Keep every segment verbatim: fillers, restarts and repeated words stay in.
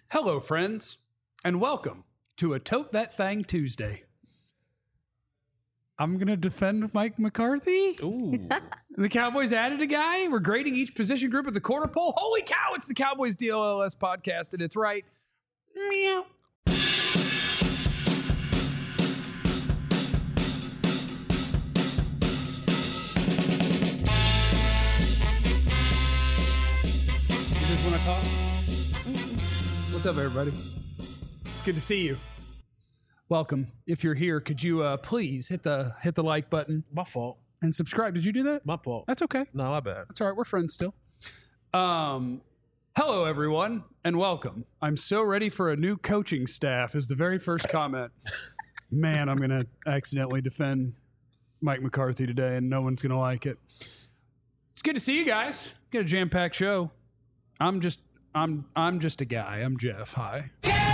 Hello, friends, and welcome to a Tote That Thang Tuesday. I'm going to defend Mike McCarthy. Ooh. The Cowboys added a guy. We're grading each position group at the quarter pole. Holy cow, it's the Cowboys D L L S podcast, and it's right. Meow. Is this when I talk? What's up, everybody? It's good to see you. Welcome. If you're here, could you uh, please hit the hit the like button My fault. and subscribe? Did you do that? My fault. That's okay. No, my bad. That's all right. We're friends still. Um, hello, everyone, and welcome. I'm so ready for a new coaching staff is the very first comment. Man, I'm going to accidentally defend Mike McCarthy today, and no one's going to like it. It's good to see you guys. Get a jam-packed show. I'm just, I'm, I'm just a guy. I'm Jeff. Hi.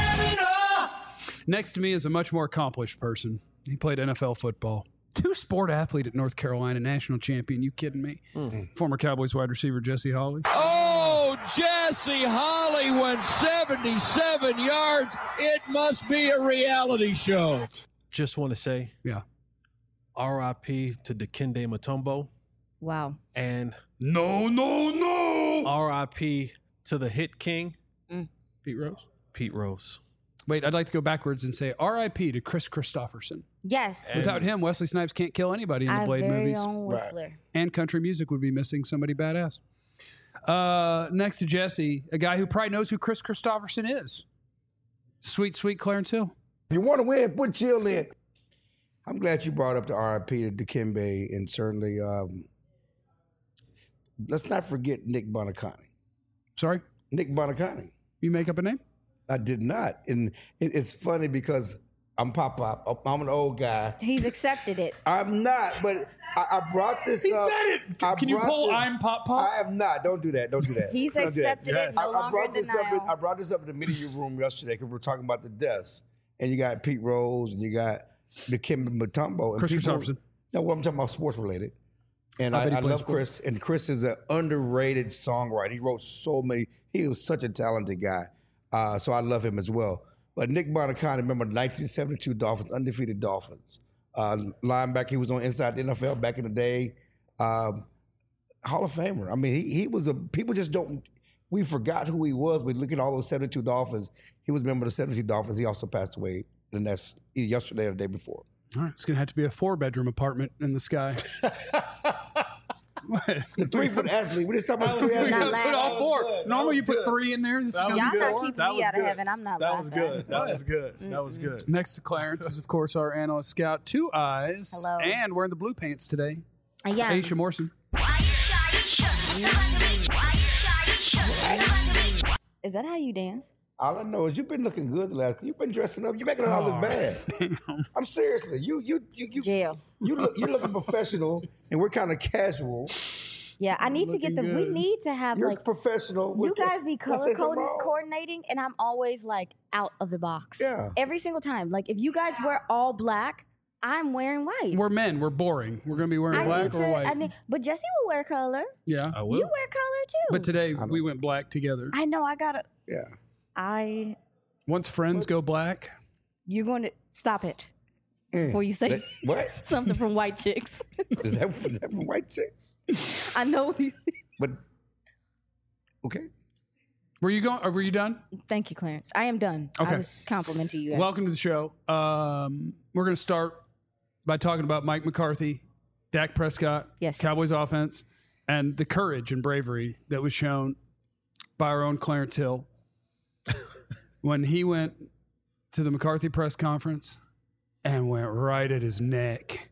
Next to me is a much more accomplished person. He played N F L football. Two-sport athlete at North Carolina, national champion. You kidding me? Mm-hmm. Former Cowboys wide receiver Jesse Holley. Oh, Jesse Holley went seventy-seven yards. It must be a reality show. Just want to say, Yeah. R I P to Dikembe Mutombo. Wow. And No, no, no. R I P to the hit king, Pete Rose. Pete Rose. Wait, I'd like to go backwards and say R I P to Chris Christopherson. Yes. And- Without him, Wesley Snipes can't kill anybody in the Our Blade very movies. own Whistler. And country music would be missing somebody badass. Uh, next to Jesse, a guy who probably knows who Chris Christopherson is. Sweet, sweet Clarence Hill. If you want to win, put chill in. I'm glad you brought up the R I P to Dikembe, and certainly, um, let's not forget Nick Bonacani. Sorry, Nick Bonacani. you make up a name? I did not, and it, it's funny because I'm Pop Pop. I'm an old guy. He's accepted it. I'm not, but I, I brought this He up. said it. I Can you brought pull this- I'm Pop Pop? I am not. Don't do that. Don't do that. He's Don't do that. accepted Yes. it. No I, I longer brought in this up. In, denial. I brought this up in the media room yesterday because we were talking about the deaths, and you got Pete Rose and you got Dikembe Mutombo and Chris people- Christopherson. No, well, I'm talking about sports related. And I I, bet he I played love sports. Chris. And Chris is an underrated songwriter. He wrote so many. He was such a talented guy. Uh, so I love him as well. But Nick Bonacani, remember the nineteen seventy-two Dolphins, undefeated Dolphins. Uh, linebacker, he was on Inside the N F L back in the day. Um, Hall of Famer. I mean, he he was a, people just don't, we forgot who he was. We look at all those seventy-two Dolphins. He was a member of the seventy-two Dolphins. He also passed away the next, either yesterday or the day before. All right, it's going to have to be a four-bedroom apartment in the sky. What? The three-foot athlete. We just talking about three We Not gotta athletes. put all laughing. four. That Normally was you put good. three in there. This is That going was to Y'all be good. not four. keeping That me was out of good. heaven. I'm not That was laughing. good. That was good. That was good. Next to Clarence is, of course, our analyst scout, Two Eyes. Hello. And wearing the blue pants today, Yeah. Aisha Morrison. Is that how you dance? All I know is you've been looking good the last. You've been dressing up. You're making it all look bad. I'm seriously. You you you you Jail. you look you're looking professional, and we're kind of casual. Yeah, I need to get the. Looking We good. need to have You're like. professional. You We're- guys be Can I say color something coded, wrong? coordinating, and I'm always like out of the box. Yeah. Every single time. Like if you guys wear all black, I'm wearing white. We're men. We're boring. We're going to be wearing I black need or to. white. I need, but Jesse will wear color. yeah. I You will. wear color too. But today I we don't- went black together. I know. I gotta. Yeah. I. Once friends go black, You're going to stop it Mm. before you say That- what something from white chicks. is that? Is that from white chicks? I know. But okay. were you going? Or were you done? Thank you, Clarence. I am done. Okay. I was complimenting you guys. Welcome to the show. Um, we're going to start by talking about Mike McCarthy, Dak Prescott, Yes. Cowboys offense, and the courage and bravery that was shown by our own Clarence Hill when he went to the McCarthy press conference and went right at his neck.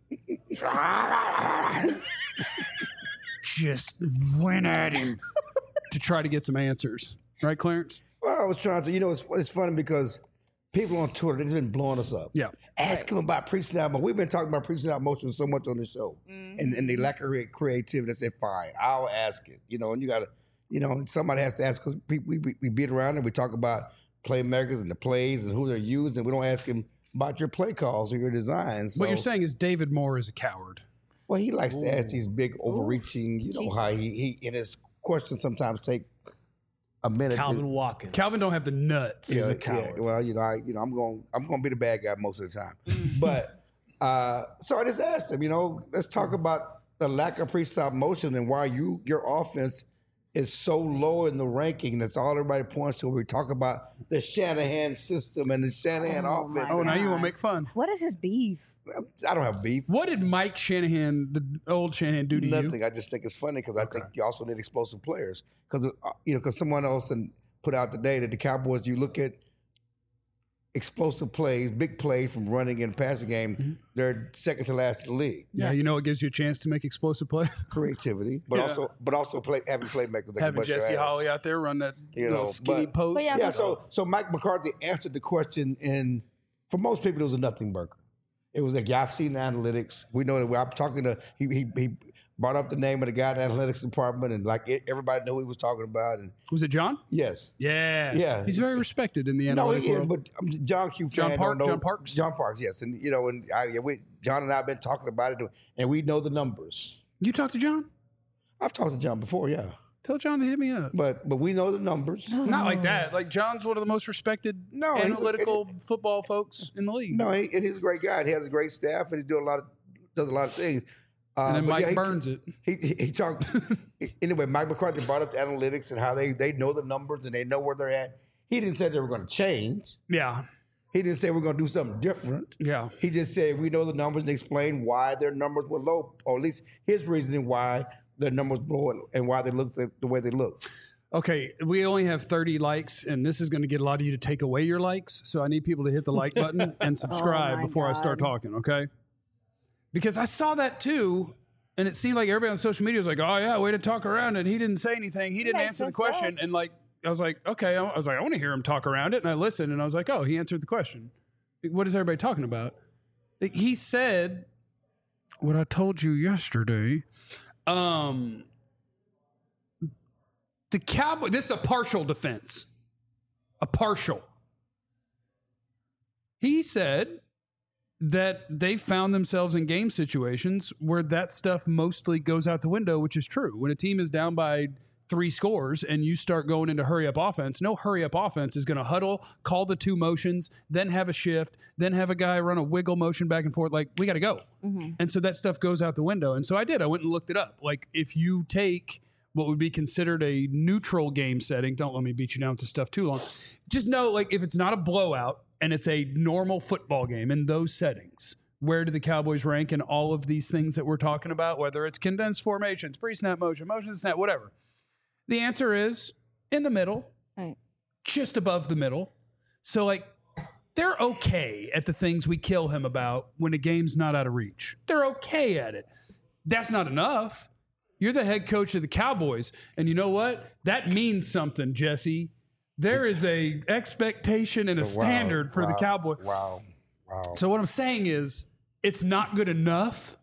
Just went at him to try to get some answers. Right, Clarence? Well, I was trying to. You know, it's it's funny because people on Twitter they've been blowing us up. Yeah. Ask him about pre-snap motion. We've been talking about pre-snap motion so much on the show, and and the lack of crea- creativity. I said, fine, I'll ask it. You know, and you got to, you know, somebody has to ask because we, we we beat around and we talk about playmakers and the plays and who they're used, and we don't ask him about your play calls or your designs. What you're So- saying is David Moore is a coward. Well, he likes to ask these big, overreaching. You know how he he in his questions sometimes take a minute. Calvin to, Watkins. Calvin don't have the nuts. yeah, a yeah, coward. well, you know, I, you know, I'm going, I'm going to be the bad guy most of the time. But uh, so I just asked him, you know, let's talk about the lack of pre-stop motion and why you your offense is so low in the ranking. That's all everybody points to. We talk about the Shanahan system and the Shanahan Oh, my offense. Oh, now you want to God. make fun. What is his beef? I don't have beef. What did Mike Shanahan, the old Shanahan, do to Nothing. you? I just think it's funny because I think you also need explosive players. Because uh, you know, because someone else and put out today that the Cowboys, you look at explosive plays, big plays from running and passing game, Mm-hmm. they're second to last in the league. Yeah, you know it gives you a chance to make explosive plays. Creativity, but Yeah. also, but also play having playmakers that can Having bust your Jesse ass. Holly out there run that You little know, skinny but- post. But yeah, Yeah, so so Mike McCarthy answered the question, and for most people, it was a nothing burger. It was like, yeah, I've seen the analytics. We know that. I'm talking to he he he brought up the name of the guy in the analytics department, and like it, everybody knew who he was talking about. And Was it John? yes, Yeah. Yeah. He's very respected in the no, analytic he is. world. But um, John Q. John fan Park- don't know- John Parks? John Parks, yes, and you know, and I, yeah, we, John and I have been talking about it, and we know the numbers. You talked to John? I've talked to John before, yeah, Tell John to hit me up. but but we know the numbers. Not like that. Like John's one of the most respected No, he's a- analytical football folks in the league. No, he, and he's a great guy. And he has a great staff, and he's doing a lot of does a lot of things. Uh, and then but Mike yeah, he- burns it. He, he, he talked anyway. Mike McCarthy brought up the analytics and how they they know the numbers and they know where they're at. He didn't say they were going to change. Yeah. He didn't say we're going to do something different. Yeah. He just said we know the numbers and explained why their numbers were low, or at least his reasoning why their numbers were low and, and why they looked the, the way they looked. Okay, we only have thirty likes, and this is going to get a lot of you to take away your likes. So I need people to hit the like button and subscribe my before I start God. talking, okay? Because I saw that too, and it seemed like everybody on social media was like, oh, yeah, way to talk around it. He didn't say anything. He didn't makes answer the sense to question. us. And like, I was like, okay. I was like, I want to hear him talk around it. And I listened, and I was like, oh, he answered the question. What is everybody talking about? He said what I told you yesterday. Um... The Cowboy, this is a partial defense. A partial. He said that they found themselves in game situations where that stuff mostly goes out the window, which is true. When a team is down by three scores and you start going into hurry up offense, no hurry up offense is going to huddle, call the two motions, then have a shift, then have a guy run a wiggle motion back and forth. Like, we got to go. And so that stuff goes out the window. And so I did. I went and looked it up. Like, if you take what would be considered a neutral game setting. Don't let me beat you down with this stuff too long. Just know, like, if it's not a blowout and it's a normal football game in those settings, where do the Cowboys rank in all of these things that we're talking about, whether it's condensed formations, pre-snap motion, motion to snap, whatever? The answer is in the middle, Right. just above the middle. So, like, they're okay at the things we kill him about when a game's not out of reach. They're okay at it. That's not enough. You're the head coach of the Cowboys. And you know what? That means something, Jesse. There is a expectation and a standard for wow, the Cowboys. Wow. Wow. So what I'm saying is it's not good enough.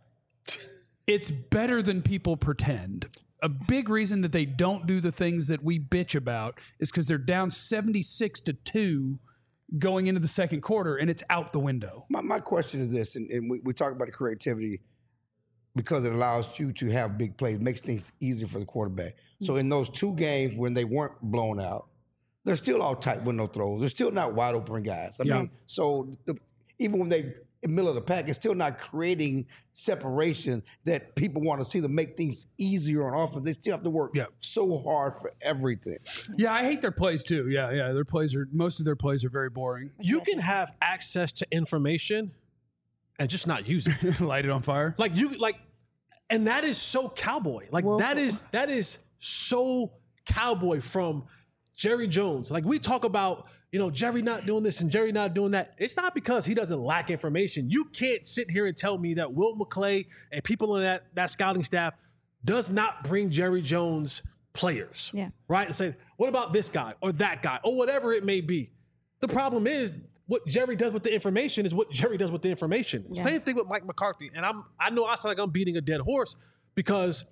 It's better than people pretend. A big reason that they don't do the things that we bitch about is because they're down seventy-six to two going into the second quarter, and it's out the window. My, my question is this, and, and we, we talk about the creativity because it allows you to have big plays, makes things easier for the quarterback. So in those two games when they weren't blown out, they're still all tight window throws. They're still not wide open guys. I Yeah. mean, so the, even when they in the middle of the pack, it's still not creating separation that people want to see to make things easier on offense. They still have to work Yeah. so hard for everything. Yeah, I hate their plays too. Yeah, yeah, their plays are most of their plays are very boring. You can have access to information and just not use it. Light it on fire. Like you like, and that is so cowboy. Like Well, that is that is so cowboy from Jerry Jones. Like we talk about, you know, Jerry not doing this and Jerry not doing that. It's not because he doesn't lack information. You can't sit here and tell me that Will McClay and people in that that scouting staff does not bring Jerry Jones players. Yeah. Right? And say, what about this guy or that guy or whatever it may be? The problem is what Jerry does with the information is what Jerry does with the information. Yeah. Same thing with Mike McCarthy. And I'm I know I sound like I'm beating a dead horse because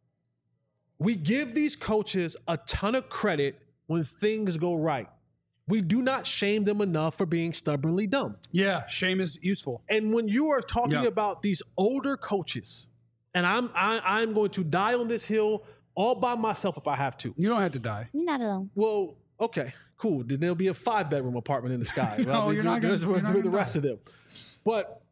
we give these coaches a ton of credit when things go right. We do not shame them enough for being stubbornly dumb. Yeah, shame is useful. And when you are talking Yeah. about these older coaches, and I'm I, I'm going to die on this hill all by myself if I have to. You don't have to die. You're not alone. Well, okay, cool. Then there'll be a five bedroom apartment in the sky. No, Right? you're not gonna- With you're not the gonna rest die. of them. But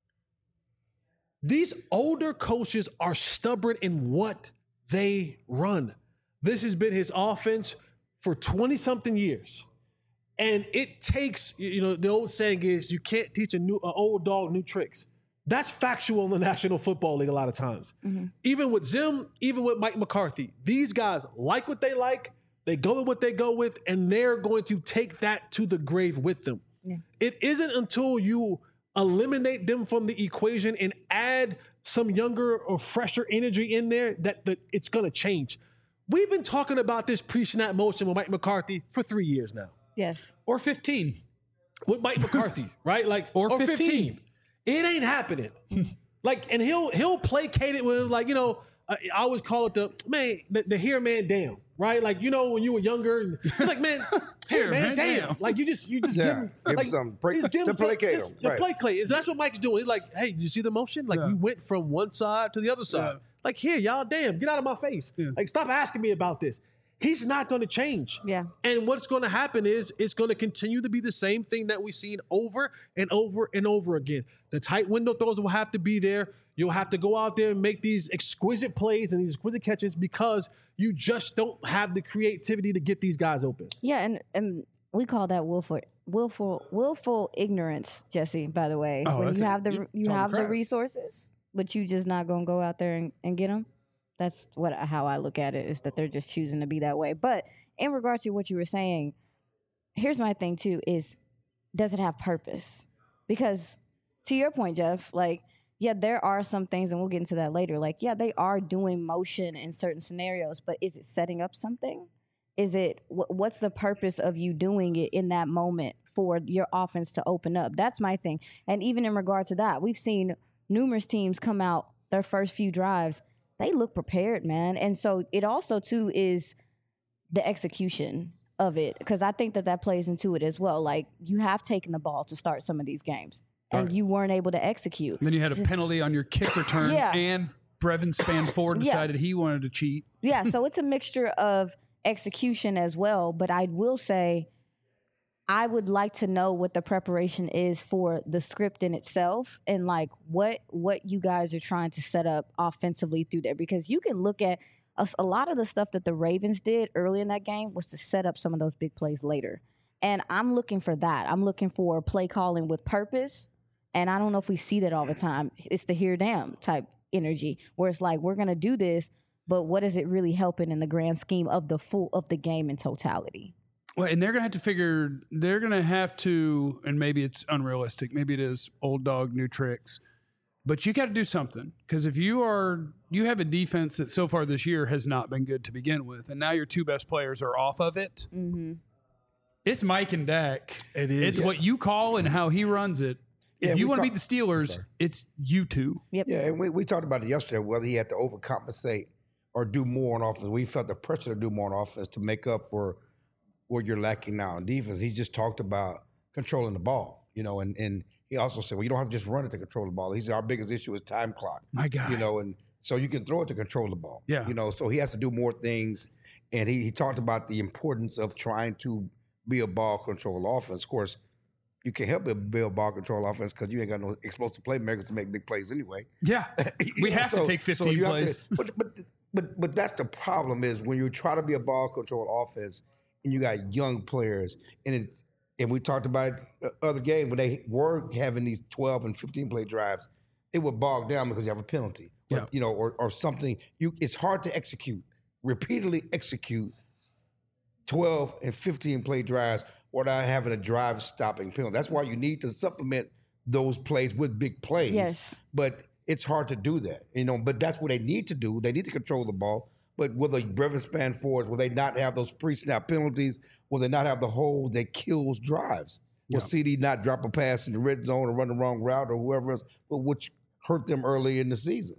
these older coaches are stubborn in what they run. This has been his offense for twenty something years. And it takes, you know, the old saying is you can't teach a new, an old dog new tricks. That's factual in the National Football League a lot of times. Mm-hmm. Even with Zim, even with Mike McCarthy, these guys like what they like, they go with what they go with, and they're going to take that to the grave with them. Yeah. It isn't until you eliminate them from the equation and add some younger or fresher energy in there that, that it's going to change. We've been talking about this pre-snap motion with Mike McCarthy for three years now. Yes. Or fifteen. With Mike McCarthy, right? Like Or fifteen. It ain't happening. Like, and he'll he'll placate it with like, you know, I, I always call it the man, the, the here man damn, right? Like, you know, when you were younger, and it's like, man, here man, man, damn. damn. Like you just you just Yeah. give him Give him like, some break- just give to him some- placate just- him, to right. placate. And that's what Mike's doing. He's like, hey, you see the motion? Like Yeah. we went from one side to the other side. Yeah. Like here, y'all, damn, get out of my face. Yeah. Like stop asking me about this. He's not going to change. Yeah. And what's going to happen is it's going to continue to be the same thing that we've seen over and over and over again. The tight window throws will have to be there. You'll have to go out there and make these exquisite plays and these exquisite catches because you just don't have the creativity to get these guys open. Yeah, and, and we call that willful, willful, willful ignorance, Jesse. By the way, Oh, when that's you it. have the You you told him have the crap. resources, but you just not gonna go out there and, and get them. That's what how I look at it, is that they're just choosing to be that way. But in regard to what you were saying, here's my thing too: is does it have purpose? Because to your point, Jeff, like, yeah, there are some things, and we'll get into that later. Like, yeah, they are doing motion in certain scenarios, but is it setting up something? Is it wh- what's the purpose of you doing it in that moment for your offense to open up? That's my thing. And even in regard to that, we've seen numerous teams come out their first few drives. They look prepared, man. And so it also too is the execution of it, because I think that that plays into it as well. Like, you have taken the ball to start some of these games, and Right. you weren't able to execute. And then you had a penalty on your kick return, Yeah. and Brevin Spanford Yeah. decided he wanted to cheat. Yeah, so it's a mixture of execution as well. But I will say, I would like to know what the preparation is for the script in itself, and like what what you guys are trying to set up offensively through there. Because you can look at a, a lot of the stuff that the Ravens did early in that game was to set up some of those big plays later. And I'm looking for that. I'm looking for play calling with purpose. And I don't know if we see that all the time. It's the here damn type energy where it's like, we're going to do this, but what is it really helping in the grand scheme of the full of the game in totality? Well, and they're going to have to figure, they're going to have to, and maybe it's unrealistic, maybe it is old dog, new tricks, but you got to do something. Because if you are, you have a defense that so far this year has not been good to begin with, and now your two best players are off of it. Mm-hmm. It's Mike and Dak. It is. It's what you call and how he runs it. Yeah, If you we want to talk- beat the Steelers, Sorry. it's you two. Yep. Yeah, and we, we talked about it yesterday, whether he had to overcompensate or do more on offense. We felt the pressure to do more on offense to make up for what you're lacking now in defense. He just talked about controlling the ball, you know, and, and he also said, well, you don't have to just run it to control the ball. He said, our biggest issue is time clock, My God. you know, and so you can throw it to control the ball. Yeah. You know, so he has to do more things. And he, he talked about the importance of trying to be a ball control offense. Of course, you can't help but be a ball control offense because you ain't got no explosive playmakers to make big plays anyway. Yeah. You We know, have to so- take so fifteen you have plays. to- but but but but that's the problem is when you try to be a ball control offense and you got young players and it's and we talked about uh, other games when they were having these twelve and fifteen play drives, it would bog down because you have a penalty, or, Yeah. you know, or or something. You it's hard to execute repeatedly execute twelve and fifteen play drives without having a drive stopping penalty. That's why you need to supplement those plays with big plays. Yes. But it's hard to do that, you know. But that's what they need to do. They need to control the ball. But will the Brevin Spanfords, will they not have those pre-snap penalties? Will they not have the hold that kills drives? Will Yeah. C D not drop a pass in the red zone or run the wrong route or whoever else, but which hurt them early in the season?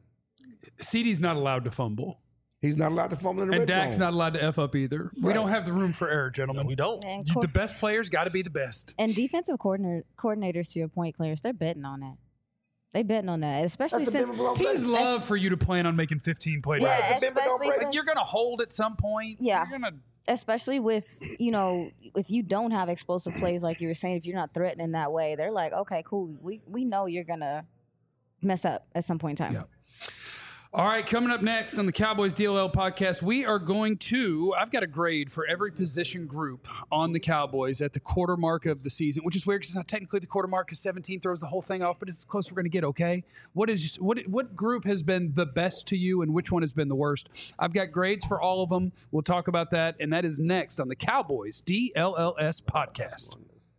C D's not allowed to fumble. He's not allowed to fumble in the And red Dak's zone. not allowed to F up either. We Right. don't have the room for error, gentlemen. We don't. And, You- co- the best players got to be the best. and defensive coordinator, coordinators, to your point, Clarence, they're betting on that. They betting on that, especially That's the since Denver Teams Broncos. love for you to plan on making fifteen play yeah, drives. the Denver don't especially break. since, You're going to hold at some point. Yeah. You're gonna, especially with, you know, if you don't have explosive plays like you were saying, if you're not threatening that way, they're like, okay, cool. We we know you're gonna mess up at some point in time. Yeah. All right, coming up next on the Cowboys D L L podcast, we are going to, I've got a grade for every position group on the Cowboys at the quarter mark of the season, which is weird because it's not technically the quarter mark because seventeen throws the whole thing off, but it's as close as we're going to get, okay? What is what what group has been the best to you and which one has been the worst? I've got grades for all of them. We'll talk about that, and that is next on the Cowboys D L L S podcast.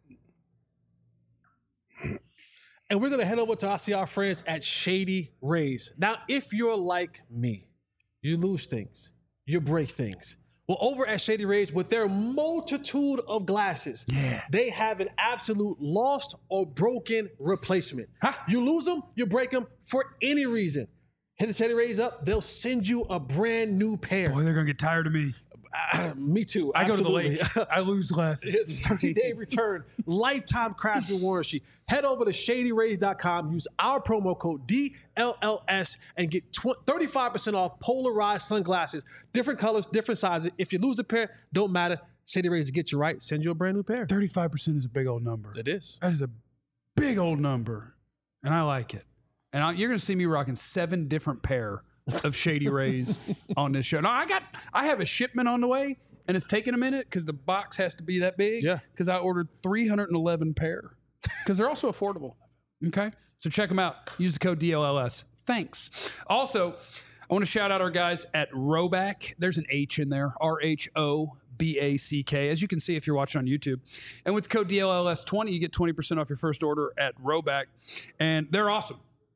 And we're going to head over to our, see our friends at Shady Rays. Now, if you're like me, you lose things, you break things. Well, over at Shady Rays, with their multitude of glasses, Yeah. they have an absolute lost or broken replacement. Huh? You lose them, you break them for any reason. Hit the Shady Rays up, they'll send you a brand new pair. Boy, they're going to get tired of me. Me too. I go absolutely. to the lake. I lose glasses. thirty-day return, lifetime craftsman warranty. Head over to shady rays dot com, use our promo code D L L S, and get thirty-five percent off polarized sunglasses. Different colors, different sizes. If you lose a pair, don't matter. Shady Rays will get you right. Send you a brand new pair. thirty-five percent is a big old number. It is. That is a big old number, and I like it. And I, you're going to see me rocking seven different pair of Shady Rays on this show. Now, I got, I have a shipment on the way, and it's taking a minute because the box has to be that big. Yeah. Because I ordered three hundred eleven pair because they're also affordable. Okay. So check them out. Use the code D L L S. Thanks. Also, I want to shout out our guys at Roback. There's an H in there. R H O B A C K, as you can see if you're watching on YouTube. And with the code D L L S twenty, you get twenty percent off your first order at Roback. And they're awesome.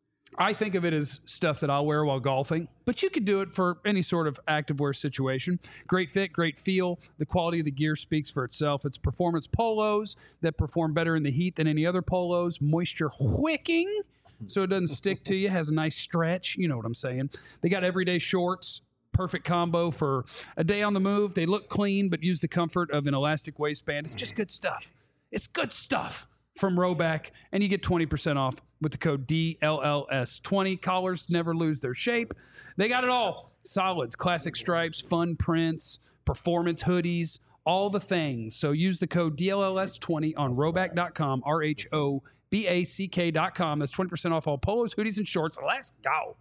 I think of it as stuff that I'll wear while golfing, but you could do it for any sort of activewear situation. Great fit, great feel. The quality of the gear speaks for itself. It's performance polos that perform better in the heat than any other polos. Moisture wicking, so it doesn't stick to you. Has a nice stretch. You know what I'm saying. They got everyday shorts. Perfect combo for a day on the move. They look clean, but use the comfort of an elastic waistband. It's just good stuff. It's good stuff from Roback, and you get twenty percent off with the code D L L S twenty. Collars never lose their shape. They got it all. Solids, classic stripes, fun prints, performance hoodies, all the things. So use the code D L L S twenty on roback dot com, R H O B A C K dot com. That's twenty percent off all polos, hoodies, and shorts. Let's go.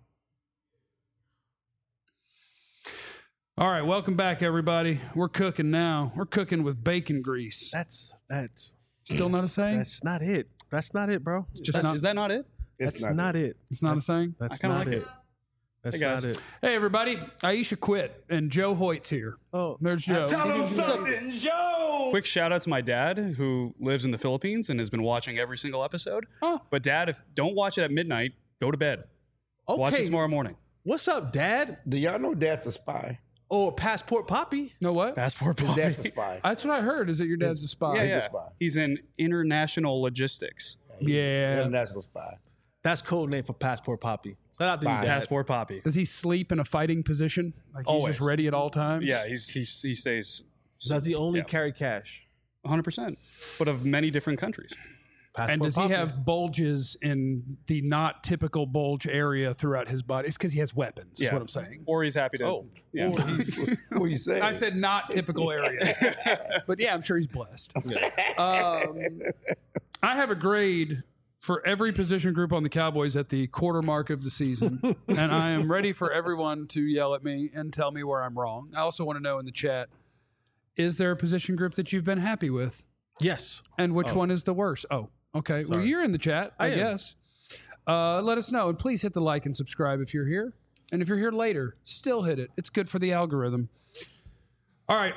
All right, welcome back, everybody. We're cooking now. We're cooking with bacon grease. That's that's Still not a saying? that's not it. That's not it, bro. Just That- not- is that not it? It's That's not, it. It's not a That's- saying? That's I kinda not like it. it. That's Hey, guys. not it. Hey, everybody. Aisha quit, and Joe Hoyt's here. Oh, There's Joe. Quick shout out to my dad who lives in the Philippines and has been watching every single episode. Oh. But dad, if don't watch it at midnight, go to bed. okay. Watch it tomorrow morning. What's up, Dad? Do y'all know Dad's a spy? Oh, Passport Poppy. Know what? Passport His Poppy. Dad's a spy. That's what I heard, is that your dad's a spy. Yeah, He's a yeah. spy. He's in international logistics. He's Yeah. an international spy. That's code name for Passport Poppy. Shout out to you, Spy. Dad. Passport Poppy. Does he sleep in a fighting position? Like he's Always. just ready at all times? Yeah, he's, he's he stays Does he only Yeah. carry cash? one hundred percent, but of many different countries. Passport And does he Poppy. have bulges in the not typical bulge area throughout his body? It's because he has weapons, is Yeah. what I'm saying. Or he's happy to. Oh. yeah. What are you saying? I said not typical area. But yeah, I'm sure he's blessed. Um, I have a grade for every position group on the Cowboys at the quarter mark of the season. And I am ready for everyone to yell at me and tell me where I'm wrong. I also want to know in the chat, is there a position group that you've been happy with? Yes. And which one is the worst? Oh, okay. Well, Sorry. you're in the chat, I, I am. guess. Uh, let us know. And please hit the like and subscribe if you're here. And if you're here later, still hit it. It's good for the algorithm. All right.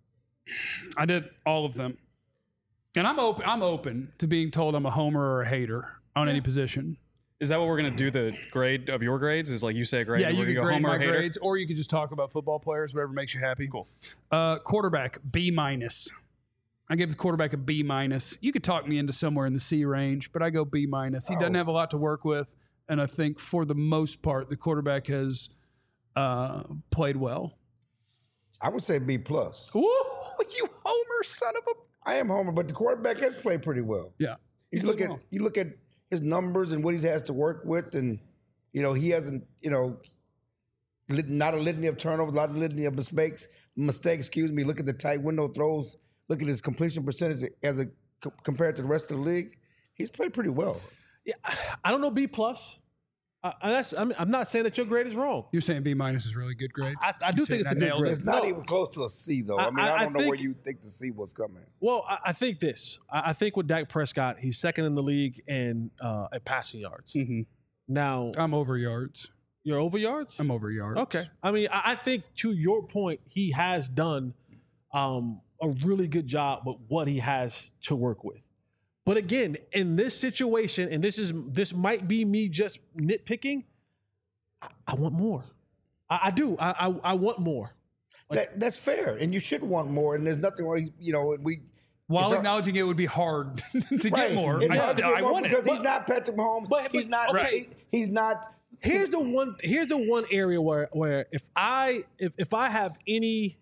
I did all of them. And I'm open I'm open to being told I'm a homer or a hater on any position. Is that what we're gonna do? The grade of your grades is like you say a grade. Yeah, and you we're can gonna go grade homer my or hater? grades, or you could just talk about football players, whatever makes you happy. Cool. Uh, quarterback, B minus. I gave the quarterback a B minus. You could talk me into somewhere in the C range, but I go B minus. He doesn't have a lot to work with, and I think for the most part, the quarterback has uh, played well. I would say B plus. Ooh, you homer son of a... I am Homer, but the quarterback has played pretty well. Yeah. You He's look played at well. you look at his numbers and what he has to work with, and you know he hasn't, you know, lit- not a litany of turnovers, not a litany of mistakes. Mistakes, excuse me. Look at the tight window throws. Look at his completion percentage as a c- compared to the rest of the league. He's played pretty well. Yeah, I don't know B plus. Uh, that's, I'm, I'm not saying that your grade is wrong. You're saying B minus is really good grade? I, I do You think said it's a I good nailed grade. it. It's not No. even close to a C, though. I, I- mean, I, I- I don't know where think- you think the C was coming. Well, I, I think this. I, I think with Dak Prescott, he's second in the league in uh, at passing yards. Mhm. Now, I'm over yards. you're over yards? I'm over yards. Okay. I mean, I, I think to your point, he has done um, a really good job with what he has to work with. But again, in this situation, and this is this might be me just nitpicking, I, I want more. I, I do. I, I I want more. That, that's fair, and you should want more. And there's nothing wrong. You know, we While It's not- acknowledging it would be hard to right. get more, It's I, hard to still, get I more want it. because he's But- not Patrick Mahomes. but- he's but- not. okay. he- he's not. Here's the one. Here's the one area where where if I if if I have any.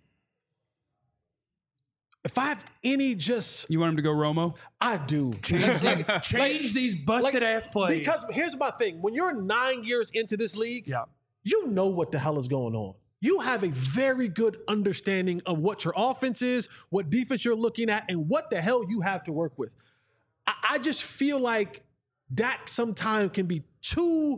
If I have any just, You want him to go Romo? I do. Change these, change these busted like- ass plays. Because here's my thing. When you're nine years into this league, yeah, you know what the hell is going on. You have a very good understanding of what your offense is, what defense you're looking at, and what the hell you have to work with. I, I just feel like Dak sometimes can be too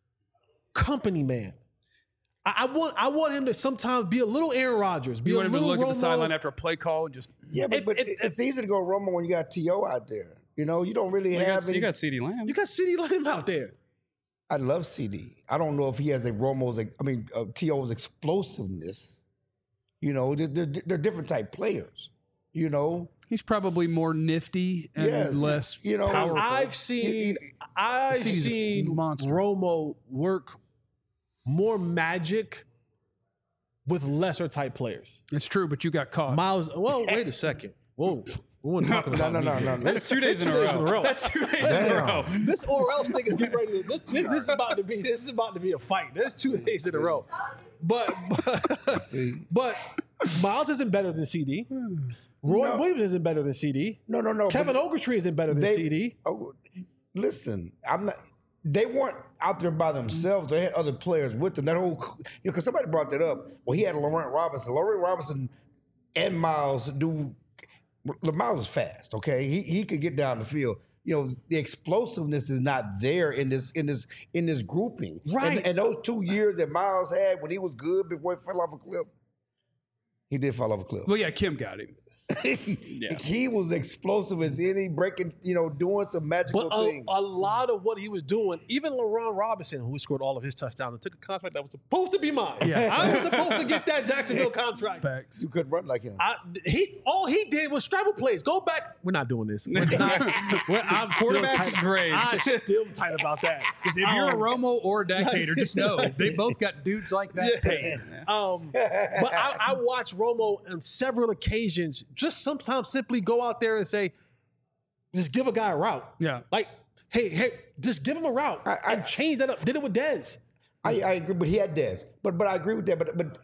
company man. I, I want I want him to sometimes be a little Aaron Rodgers. Be you a want him to little look at the Romo. sideline after a play call and just Yeah, but, If- but if- it's easy to go Romo when you got T O out there. You know, you don't really You have got, any. you got CeeDee Lamb. You got CeeDee Lamb out there. I love C D. I don't know if he has a Romo's. I mean, uh, T O's explosiveness. You know, they're, they're, they're different type players. You know, he's probably more nifty and Yeah, less you know, powerful. I've seen I've CeeDee's a seen monster. Romo work more magic with lesser type players. it's true, but you got caught. Miles, well, wait a second. Whoa, we weren't talking no, about no, me no, here. no, no. That's two days in a two days row. in a row. That's two days in a Damn. row. This or else thing is getting ready to this, this this is about to be this is about to be a fight. There's two days in a row. But but, See. but Miles isn't better than C D. Roy No. Williams isn't better than C D. No, no, no. Kevin but Ogletree isn't better than they- C D. Oh, listen, I'm not. They weren't out there by themselves. They had other players with them. That whole, you know, because somebody brought that up. Well, he had Laurent Robinson. Laurent Robinson and Miles do. Miles is fast. Okay, he he could get down the field. You know, the explosiveness is not there in this in this in this grouping. Right. And, and those two years that Miles had when he was good before he fell off a cliff, he did fall off a cliff. well, yeah, Kim got him. he, he was explosive as any, breaking, you know, doing some magical But a, things. a lot of what he was doing, even Laurent Robinson, who scored all of his touchdowns and took a contract that was supposed to be mine. Yeah. I was supposed to get that Jacksonville contract. Facts. You couldn't run like him. I, he all he did was scramble plays. Go back. We're not doing this. We're not, we're, I'm still Quarterback tight. grades. I'm still tight about that. If you're a Um, Romo or a Dak hater, just know they both got dudes like that paid. Um, but I, I watched Romo on several occasions just sometimes simply go out there and say, just give a guy a route. Yeah. Like, hey, hey, just give him a route I- I- and change that up. Did it with Dez. I, I agree, but he had Dez. But but I agree with that. But but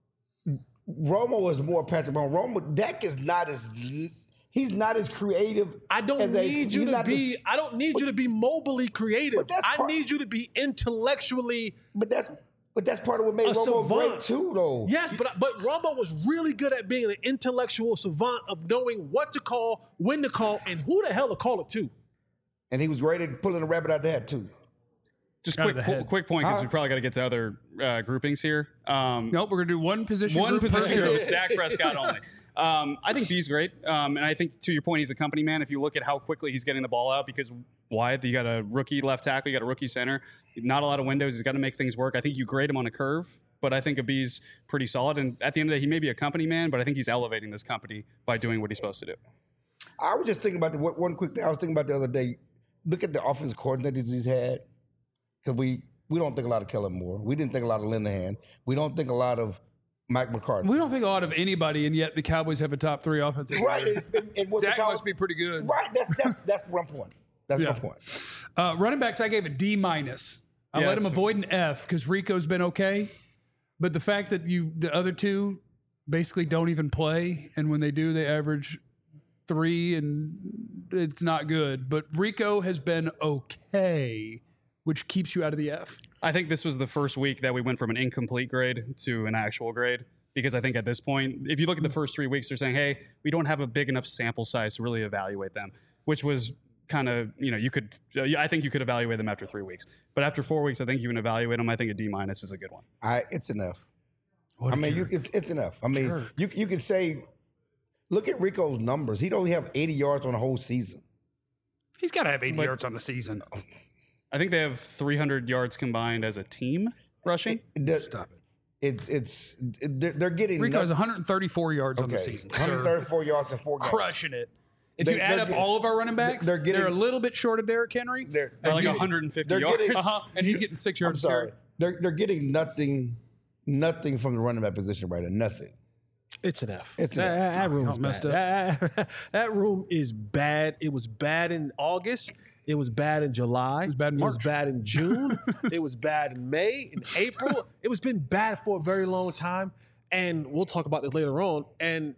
Romo is more Patrick Mahomes. Romo, Dak is not as he's not as creative. I don't as a- need you he's to not be. as- I don't need you to be mobily creative. But that's I part- need you to be intellectually. but that's but that's part of what made A Romo savant. great too, though. Yes, but but Romo was really good at being an intellectual savant of knowing what to call, when to call, and who the hell to call it to. And he was great at pulling a rabbit out of the hat too. Just Out of quick, the qu- head. quick point because Huh? we probably got to get to other uh, groupings here. Um, Nope, we're gonna do one position. one group per position show. group. It's Dak Prescott only. Um, I think B's great, um, and I think to your point, he's a company man. If you look at how quickly he's getting the ball out, because why? You got a rookie left tackle, you got a rookie center, not a lot of windows. He's got to make things work. I think you grade him on a curve, but I think a B's pretty solid. And at the end of the day, he may be a company man, but I think he's elevating this company by doing what he's supposed to do. I was just thinking about the one quick thing. I was thinking about the other day. Look at the offense coordinators he's had, because we we don't think a lot of Kellen Moore. We didn't think a lot of Linehan. We don't think a lot of Mike McCarthy. We don't think a lot of anybody, and yet the Cowboys have a top three offensive Right. line. it's- And, and what's the Dak Cow- must be pretty good. Right. That's that's that's one point. That's Yeah. my point. Uh, running backs, I gave a D minus. I Yeah, let him that's- avoid an F because Rico's been okay, but the fact that you the other two basically don't even play, and when they do, they average three and it's not good. But Rico has been okay, which keeps you out of the F. I think this was the first week that we went from an incomplete grade to an actual grade. Because I think at this point, if you look at the first three weeks, they're saying, hey, we don't have a big enough sample size to really evaluate them, which was kind of, you know, you could, I think you could evaluate them after three weeks. But after four weeks, I think you can evaluate them. I think a D minus is a good one. I, it's enough. What I a mean, jerk. you, it's, it's enough. I mean, Jerk. you you can say, look at Rico's numbers. He'd only have eighty yards on the whole season. He's got to have eighty But- yards on the season. I think they have three hundred yards combined as a team rushing. It does- Stop it. It's it's it, they're, they're getting Rico has nut- one hundred thirty-four yards on the okay, season. one hundred Sir. thirty-four yards in four games. Crushing it. If They- you add they're up get- all of our running backs, they're they're, getting- a little bit short of Derrick Henry. They're, They're they're like getting- one hundred fifty they're yards. getting- Uh-huh. And he's getting six I'm yards. sorry. carry. They're they're getting nothing, nothing from the running back position right now. Nothing. It's an F. It's an that, F. that room's Y'all messed bad. That, that room is bad. It was bad in August. It was bad in July. It was bad in It was March. bad in June. It was bad in May, in April. It was been bad for a very long time. And we'll talk about this later on. And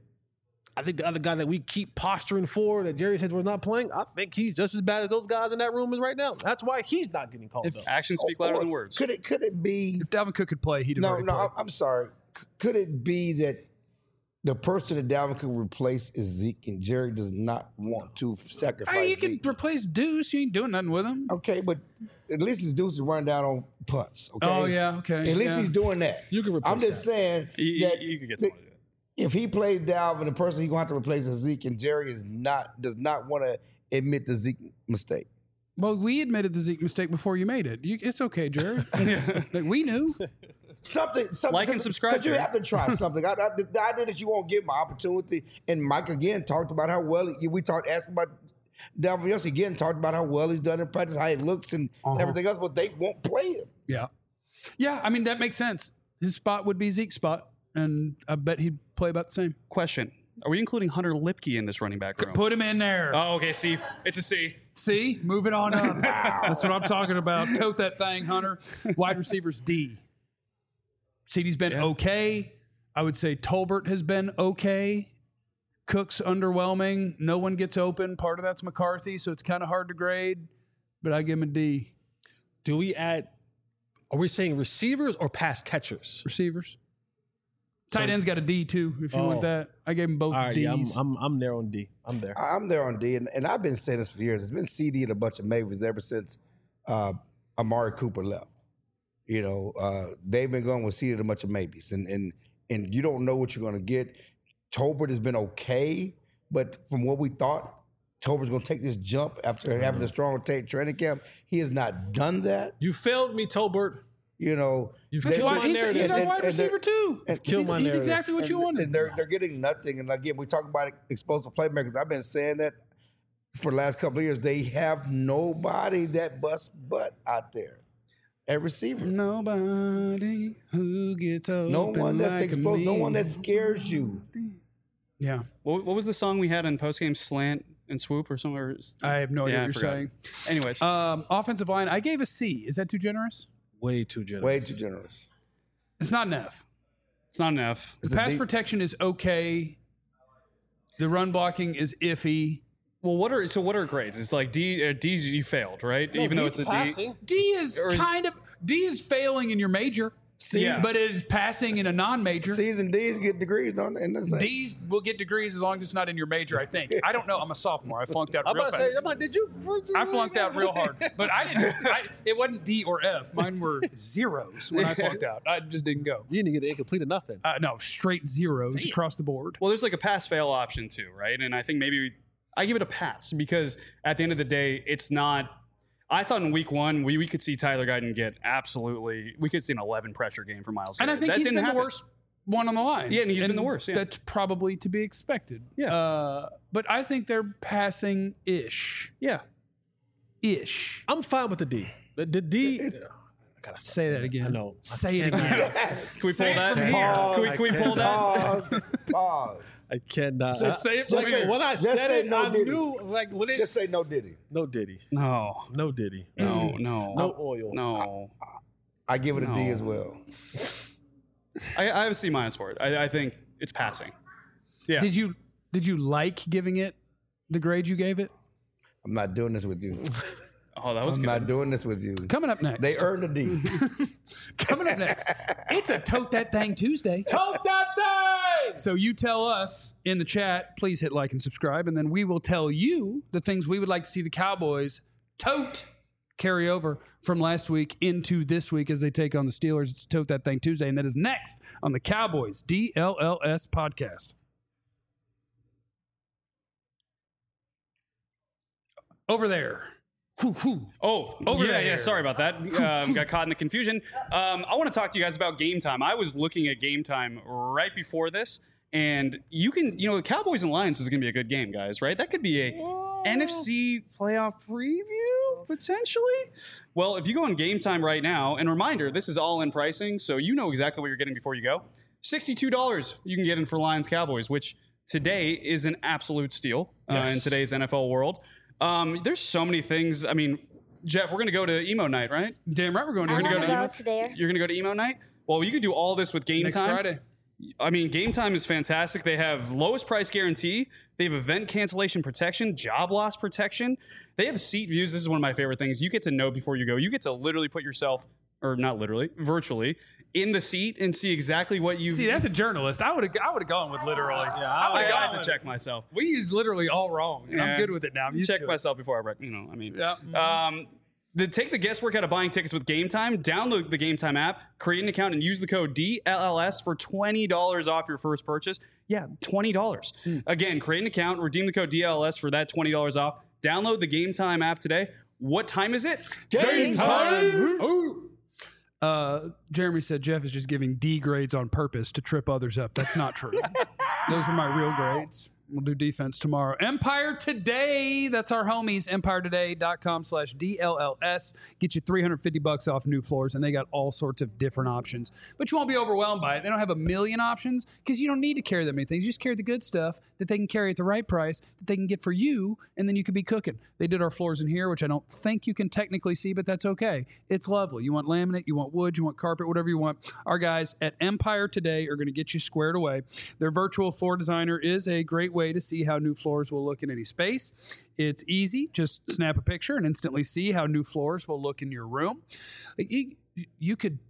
I think the other guy that we keep posturing for, that Jerry says we're not playing, I think he's just as bad as those guys in that room is right now. That's why he's not getting called up. Actions speak louder Or than words. Could it could it be? If Dalvin Cook could play, he'd have No, already no. played. I'm- I'm sorry. C- Could it be that the person that Dalvin could replace is Zeke, and Jerry does not want to sacrifice Hey, you can Zeke? replace Deuce. You ain't doing nothing with him. Okay, but at least his Deuce is running down on punts. Okay. Oh, yeah, okay, At least yeah. he's doing that. You can replace I'm just that. saying You, that you could get the- someone to do it. if he plays Dalvin, the person he's going to have to replace is Zeke, and Jerry is not does not want to admit the Zeke mistake. Well, we admitted the Zeke mistake before you made it. You, it's okay, Jerry. Like, we knew. Something, something. Like and cause, subscribe, 'cause you Jerry. have to try something. I, I, the idea that you won't give him an opportunity, and Mike again talked about how well he, we talked, asked about Dalvin yesterday again, talked about how well he's done in practice, how he looks, and Uh-huh. everything else. But they won't play him. Yeah. Yeah, I mean, that makes sense. His spot would be Zeke's spot, and I bet he'd play about the same. Question. Are we including Hunter Lipke in this running back room? Put him in there. Oh, okay. See, it's a C. See? Moving on up. That's what I'm talking about. Tote that thing, Hunter. Wide receivers, D. C D's been okay. I would say Tolbert has been okay. Cook's underwhelming. No one gets open. Part of that's McCarthy, so it's kind of hard to grade, but I give him a D. Do we add, are we saying receivers or pass catchers? Receivers. Tight end's got a D too, if you want Oh. that. I gave him both All right, D's. yeah, I'm, I'm, I'm there on D. I'm there. I'm there on D, and, and I've been saying this for years. It's been C D and a bunch of maybes ever since uh, Amari Cooper left. You know, uh, they've been going with C D and a bunch of maybes, and and and you don't know what you're going to get. Tolbert has been okay, but from what we thought, Tolbert's going to take this jump after having a strong ta- training camp. He has not done that. You failed me, Tolbert. You know, You've they- killed Why- my he's, narrative. he's our And- wide and- and receiver too. and- Kill he's, my he's narrative. exactly what you and, wanted. and they're they're getting nothing. And again, we talk about explosive playmakers. I've been saying that for the last couple of years. They have nobody that busts butt out there at receiver. Nobody who gets open No one that's like explosive. No me. one that scares you. Yeah, What, what was the song we had in postgame slant and swoop or somewhere? I have no idea Yeah, I what you're forgot. saying. Anyways, Um, offensive line, I gave a C. Is that too generous? Way too generous. Way too generous. It's not enough. it's not enough. The It's a pass deep- protection is okay. The run blocking is iffy. Well, what are so? What are grades? It's like D. Uh, D's you failed, right? Even though it's a D. D is Or is- kind of D is failing in your major, Season, but it is passing in a non-major. season D's get degrees, don't they? And that's like- D's will get degrees as long as it's not in your major. I think. I don't know. I'm a sophomore. I flunked out I'm real about to say, fast. I'm like, did you? I flunked out real hard, but I didn't. I, it wasn't D or F. Mine were zeros when I flunked out. I just didn't go. You didn't get the incomplete or nothing. Uh, no, straight zeros across the board. Well, there's like a pass fail option too, right? And I think maybe we, I give it a pass because at the end of the day, it's not. I thought in week one we, we could see Tyler Guyton get absolutely. We could see an eleven pressure game for Miles. And I Garrett. think That he's didn't been happen. the worst one on the line. Yeah, and he's been the worst, yeah. That's probably to be expected. Yeah. Uh, but I think they're passing ish. Yeah. Ish. I'm fine with the D. The, the D. I gotta Say that again. I know. Say it cannot. again. Can we Say pull it that? from here. Can we, can we pull that? Pause. Pause. I cannot. Just say it Like, from here. when I Just said say it, no I Diddy. knew. Like when it. Just say no Diddy. no Diddy. No. No Diddy. No. No. No oil. No. I give it a D No. as well. I, I have a C minus for it. I, I think it's passing. Yeah. Did you did you like giving it the grade you gave it? I'm not doing this with you. Oh, that was I'm good. not doing this with you. Coming up next. They earned a D. Coming up next. It's a Tote That Thing Tuesday. Tote that thing! So you tell us in the chat, please hit like and subscribe, and then we will tell you the things we would like to see the Cowboys tote carry over from last week into this week as they take on the Steelers. It's Tote That Thing Tuesday, and that is next on the Cowboys D L L S podcast. Over there. Whew, whew. Oh, Over yeah, there. yeah. Sorry about that. Um, got caught in the confusion. Um, I want to talk to you guys about Game Time. I was looking at Game Time right before this, and you can, you know, the Cowboys and Lions is going to be a good game, guys. Right? That could be a N F C playoff preview potentially. Well, if you go on Game Time right now, and reminder, this is all in pricing, so you know exactly what you're getting before you go. Sixty-two dollars you can get in for Lions Cowboys, which today is an absolute steal uh, Yes. in today's N F L world. Um, there's so many things. I mean, Jeff, we're going to go to emo night, right? Damn right we're going to I we're gonna gonna go want to to go emo- to there. You're going to go to emo night? Well, you could do all this with Game next Time. Friday. I mean, Game Time is fantastic. They have lowest price guarantee. They have event cancellation protection, job loss protection. They have seat views. This is one of my favorite things. You get to know before you go. You get to literally put yourself, or not literally, virtually, in the seat and see exactly what you. See, that's a journalist. I would have I would have gone with literally. Yeah, I, I, I have to check myself. We use literally all wrong, and Yeah. I'm good with it now. I'm used Check to it. myself before I, rec- you know, I mean. Yeah. Um, the, take the guesswork out of buying tickets with Game Time. Download the Game Time app, create an account, and use the code D L L S for twenty dollars off your first purchase. Yeah, twenty dollars. Again, create an account, redeem the code D L L S for that twenty dollars off. Download the Game Time app today. What time is it? Game time! Uh, Jeremy said Jeff is just giving D grades on purpose to trip others up. That's not true. Those were my real grades. We'll do defense tomorrow. Empire Today. That's our homies. EmpireToday.com slash D L L S. Get you three hundred fifty bucks off new floors, and they got all sorts of different options. But you won't be overwhelmed by it. They don't have a million options because you don't need to carry that many things. You just carry the good stuff that they can carry at the right price that they can get for you, and then you could be cooking. They did our floors in here, which I don't think you can technically see, but that's okay. It's lovely. You want laminate, you want wood, you want carpet, whatever you want. Our guys at Empire Today are going to get you squared away. Their virtual floor designer is a great way to see how new floors will look in any space. It's easy. Just snap a picture and instantly see how new floors will look in your room. You, you could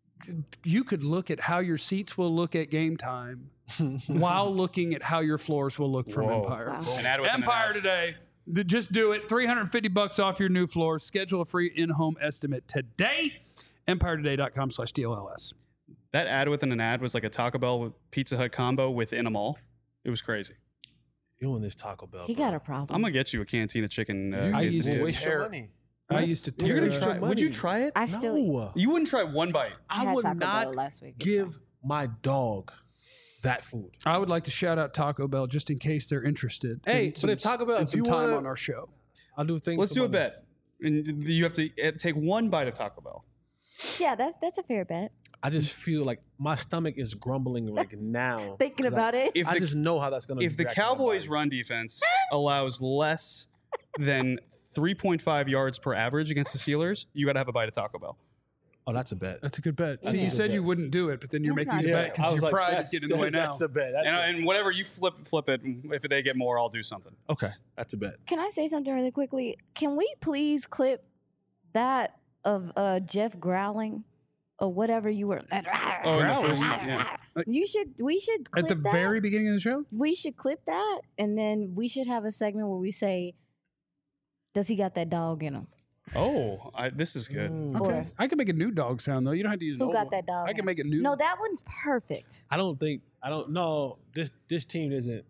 you could look at how your seats will look at game time while looking at how your floors will look from Whoa. Empire. Wow. An ad with an Empire ad. Today. Th- Just do it. three hundred fifty bucks off your new floors. Schedule a free in-home estimate today. EmpireToday.com slash D L L S. That ad within an ad was like a Taco Bell with Pizza Hut combo within a mall. It was crazy. You and this Taco Bell. He bro. got a problem. I'm gonna get you a cantina chicken. Uh, You I just used to waste tear- your money. I used to You're tear gonna Waste try. your Would you money. try it? I still No. You wouldn't try one bite. I I had would Taco Bell not last week. It's give fine. my dog that food. I would like to shout out Taco Bell just in case they're interested. Hey, in but some, if Taco Bell- in if some you time wanna- on our show. I'll do things. Let's for do a money. bet. And you have to uh, take one bite of Taco Bell. Yeah, that's that's a fair bet. I just feel like my stomach is grumbling like now. Thinking 'Cause I- about it. If I the, just know how that's gonna. if the react to my Cowboys' body. run defense allows less than three point five yards per average against the Steelers, you got to have a bite of Taco Bell. oh, that's a bet. That's a good bet. That's See, a you good said bet. you wouldn't do it, but then you're That's making not a fair. bet I because was your like, pride that's- is getting in the way now. That's a bet. That's And, a, and whatever you flip flip it, if they get more, I'll do something. okay, that's a bet. Can I say something really quickly? Can we please clip that of uh, Jeff growling or whatever you were? Oh, in the first, yeah. You should. We should clip At the that. very beginning of the show? We should clip that, and then we should have a segment where we say, "Does he got that dog in him?" Oh, I, this is good. Mm. Okay. Or I can make a new dog sound, though. You don't have to use an who old got one. that dog? I in can him? make a new No, that one's perfect. I don't think. I don't know. This this team isn't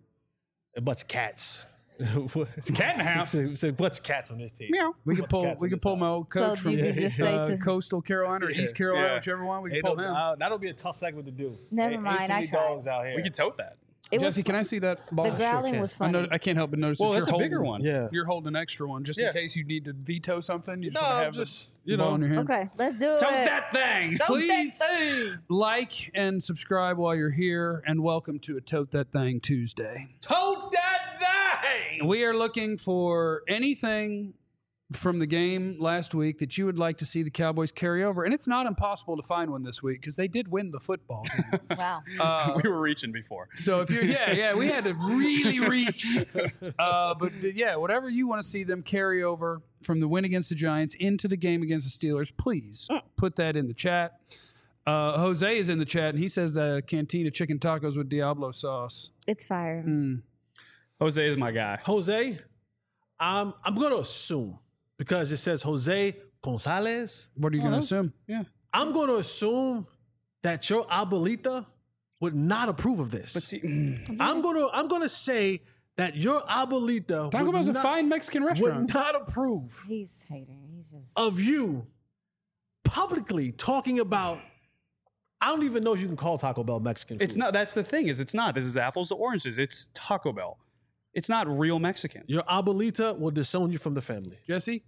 a bunch of cats. It's cat in the house. It's a bunch of cats on this team. Meow. We can Bunch of pull. cats We on can this pull side. my old So coach you from can just stay uh, to- coastal Carolina or Yeah. East Carolina, Yeah. whichever one. We can Ain't pull no- him. uh, that'll be a tough segment to do. Never Ain't- mind, Ain't too I many tried. dogs out here. We could tote that. It was Jesse, can I see that ball? the growling can. was I, funny. know, I can't help but notice Well, that that's you're a holding, bigger one. Yeah. You're holding an extra one just Yeah. in case you need to veto something. You just No, want to I'm have just, the you ball know. in your hand. Okay, let's do Tote it. that thing. Tote Please that thing. like and subscribe while you're here, and welcome to a Tote That Thing Tuesday. Tote that thing. We are looking for anything from the game last week that you would like to see the Cowboys carry over? And it's not impossible to find one this week because they did win the football game. Wow. Uh, we were reaching before. so if you're, yeah, yeah, we had to really reach. Uh, but uh, yeah, whatever you want to see them carry over from the win against the Giants into the game against the Steelers, please put that in the chat. Uh, Jose is in the chat and he says the Cantina chicken tacos with Diablo sauce. It's fire. Mm. Jose is my guy. Jose, um, I'm going to assume, because it says Jose Gonzalez, What are you going to assume? Yeah. I'm going to assume that your abuelita would not approve of this. But see, I'm going to I'm going to say that your abuelita Taco would Bell's a not, fine Mexican restaurant. would not approve He's hating. He's just. of you publicly talking about. I don't even know if you can call Taco Bell Mexican food. it's not. That's the thing. Is it's not. This is apples to oranges. It's Taco Bell. It's not real Mexican. Your abuelita will disown you from the family. Jesse?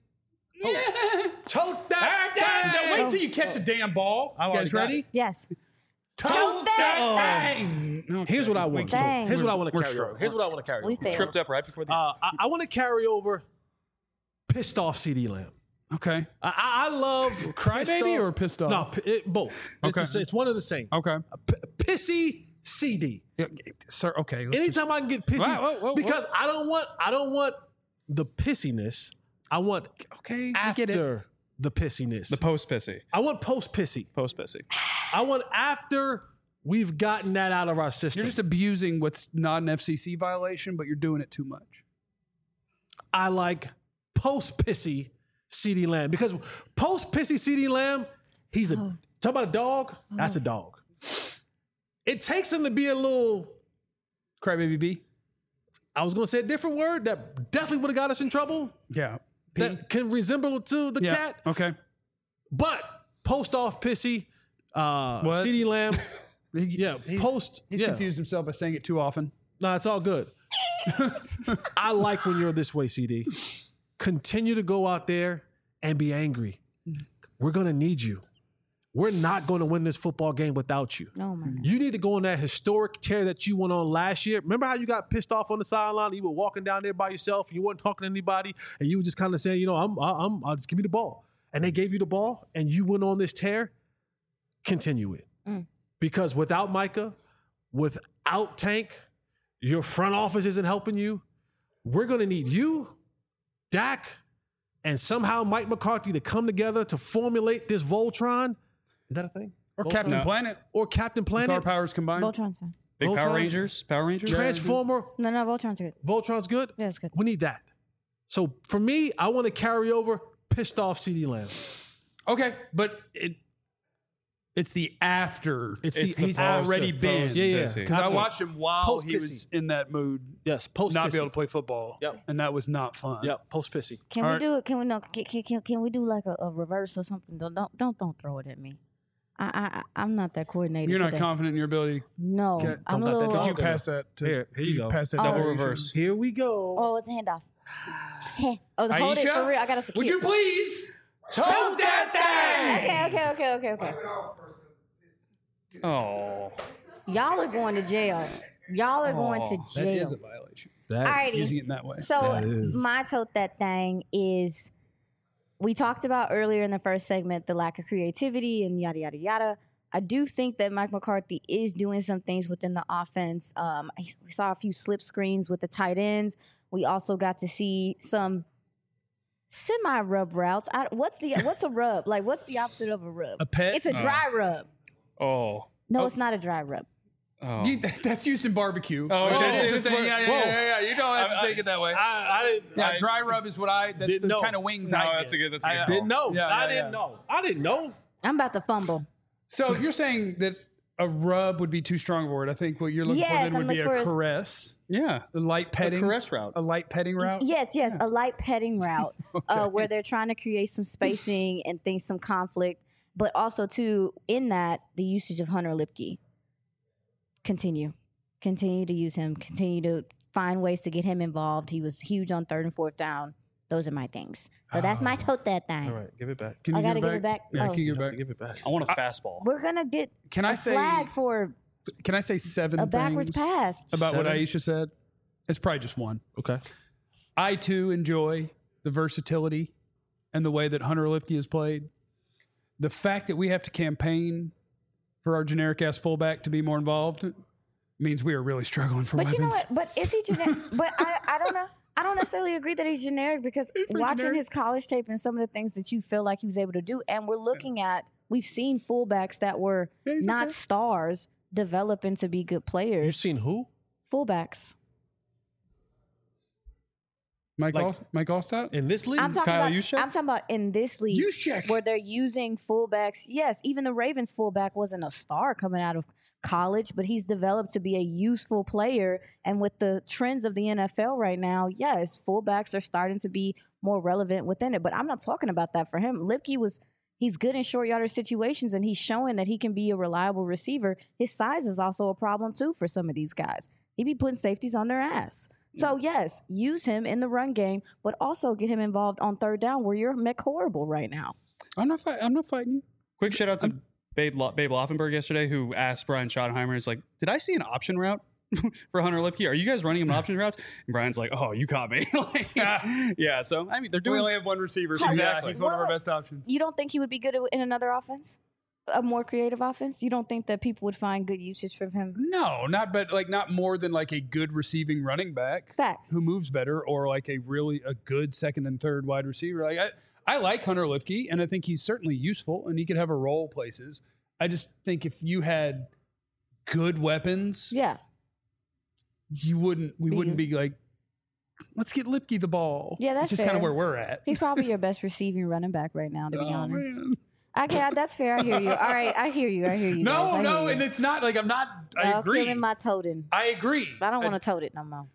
Choke that thing! Wait till you catch the damn ball. I You already guys got ready? it. Yes. Tote that thing. Here's what I want. to do. Dang. Here's what I want to We're carry strong. over. Here's what I want to carry We over. failed. Tripped up right before the. Uh, I, I want to carry over pissed off C D Lamb. Okay. I, I, I love Crybaby pissed or pissed off? No, p- it, both. It's, Okay. the, it's one of the same. Okay. P- pissy C D. Yeah, sir, okay. let's just- Anytime I can get pissy, Whoa, whoa, whoa, because I don't want I don't want the pissiness. I want okay, I get it. after the pissiness. the post pissy. I want post pissy. Post pissy. I want after we've gotten that out of our system. You're just abusing what's not an F C C violation, but you're doing it too much. I like post pissy C D Lamb because post pissy C D Lamb, he's a talk about a dog. That's a dog. It takes him to be a little. Crybaby B? I was going to say a different word that definitely would have got us in trouble. Yeah. P? That can resemble to the yeah. cat, Okay. but post off pissy, uh, What? C D Lamb. He- Yeah, he's, post. He's yeah. confused himself by saying it too often. No, it's all good. I like when you're this way, C D. Continue to go out there and be angry. We're going to need you. We're not going to win this football game without you. Oh my God. You need to go on that historic tear that you went on last year. Remember how you got pissed off on the sideline? You were walking down there by yourself. And you weren't talking to anybody, and you were just kind of saying, you know, I'm, I'm, I'll just give me the ball. And they gave you the ball, and you went on this tear. Continue it, Mm. because without Micah, without Tank, your front office isn't helping you. We're going to need you, Dak, and somehow Mike McCarthy to come together to formulate this Voltron. Is that a thing? Or Voltron? Captain No. Planet. Or Captain With our Planet? powers combined. Voltron's fine. Big Voltron? Power Rangers. Power Rangers. Transformer? No, no, Voltron's good. Voltron's good? Yeah, it's good. We need that. So for me, I want to carry over pissed off C D Lamb. Okay, but it it's the after. It's It's the, the he's post- already been. post Yeah, yeah. pissy. Because I After. watched him while Post he was pissy. in that mood, Yes, post not pissy. be able to play football. Yep. And that was not fun. Yep, post pissy. Can All we right. do it? Can we no? Can, can, can, can we do like a, a reverse or something? Don't don't don't don't throw it at me. I I I- I'm not that coordinated. You're not today. confident in your ability. No, Okay, I'm a don't let that little. go. Could you Okay. pass that to Here, here you go. Pass that Oh. to Double Aisha? reverse. Here we go. Oh, it's a handoff. Heh. Oh, hold it for Aisha, real. I gotta secure. would you please tote that thing? Okay, okay, okay, okay, okay. Oh. Y'all are going to jail. Y'all are going to That jail. is a violation. That's- Alrighty. Using it in that way. So That is- my tote that thing is we talked about earlier in the first segment the lack of creativity and yada yada yada. I do think that Mike McCarthy is doing some things within the offense. Um, I- we saw a few slip screens with the tight ends. We also got to see some semi rub routes. I, what's the what's a rub? Like what's the opposite of a rub? A pet? It's a dry rub. Oh. No, it's not a dry rub. Oh. You, that's used in barbecue. Oh, Like, it that's is. the It's thing. where- Yeah, yeah, Whoa. yeah, yeah, yeah. You don't have to I- take it that way. I, I didn't. yeah, I dry rub is what I. That's Didn't the know. kind of wings No, I get. that's a good- that's a I, good uh, didn't know. Yeah, I yeah, didn't yeah. know. I didn't know. I'm about to fumble. So if you're saying that a rub would be too strong of a word, I think what you're looking Yes, for then I'm would be a looking for a- caress, Yeah. a light petting, caress route. a light petting route. Yes, yes, a light petting route uh, where they're trying to create some spacing and things, some conflict, but also too in that the usage of Hunter Lipke. Continue, continue to use him. Continue to find ways to get him involved. He was huge on third and fourth down. Those are my things. So that's my tote that thing. All right, give it back. Can I you gotta give give it back? Yeah, Oh. can you give it You have back? to give it back. I want a fastball. We're gonna get Can I a say? flag for Can I say seven a backwards things pass. about what Seven? Aisha said? It's probably just one. Okay. I too enjoy the versatility and the way that Hunter Lipke has played, the fact that we have to campaign for our generic ass fullback to be more involved means we are really struggling for But weapons. you know what? But is he generic? But I, I don't know. I don't necessarily agree that he's generic because watching generic. his college tape and some of the things that you feel like he was able to do, and we're looking at, we've seen fullbacks that were Yeah, he's not okay. stars develop into be good You've players. seen who? Fullbacks. Mike, like- All, Mike Allstott? In this league? I'm talking Kyle about. Juszczyk? I'm talking about in this league Juszczyk. where they're using fullbacks. Yes, even the Ravens fullback wasn't a star coming out of college, but he's developed to be a useful player. And with the trends of the N F L right now, yes, fullbacks are starting to be more relevant within it. But I'm not talking about that for him. Lipke was. He's good in short yardage situations, and he's showing that he can be a reliable receiver. His size is also a problem too for some of these guys. He be putting safeties on their ass. So yes, use him in the run game, but also get him involved on third down where you're Mick horrible right now. I'm not. Fight, I'm not fighting you. Quick shout out to Babe, Lo- Babe Loffenberg yesterday, who asked Brian Schottenheimer, "It's like, did I see an option route for Hunter Lipke? Are you guys running him option routes?" And Brian's like, "Oh, you caught me." Like, yeah. So I mean, they're We doing. only have one receiver. So Exactly. yeah, he's one of our Well, best options. You don't think he would be good in another offense, a more creative offense? You don't think that people would find good usage for him? No, not but like not more than like a good receiving running back Facts. who moves better, or like a really a good second and third wide receiver. Like I, I like Hunter Lipke, and I think he's certainly useful, and he could have a role places. I just think if you had good weapons, Yeah. you wouldn't. We Be wouldn't good. be like, let's get Lipke the ball. Yeah, that's it's just kind of fair. where we're at. He's probably your best receiving running back right now, to be Oh, honest. man. Okay, that's fair. I hear you. All right, I hear you. I hear you. guys. No, I hear no, you. and it's not like I'm not. I Y'all agree. killing my toting. I agree. I don't want to tote it no more.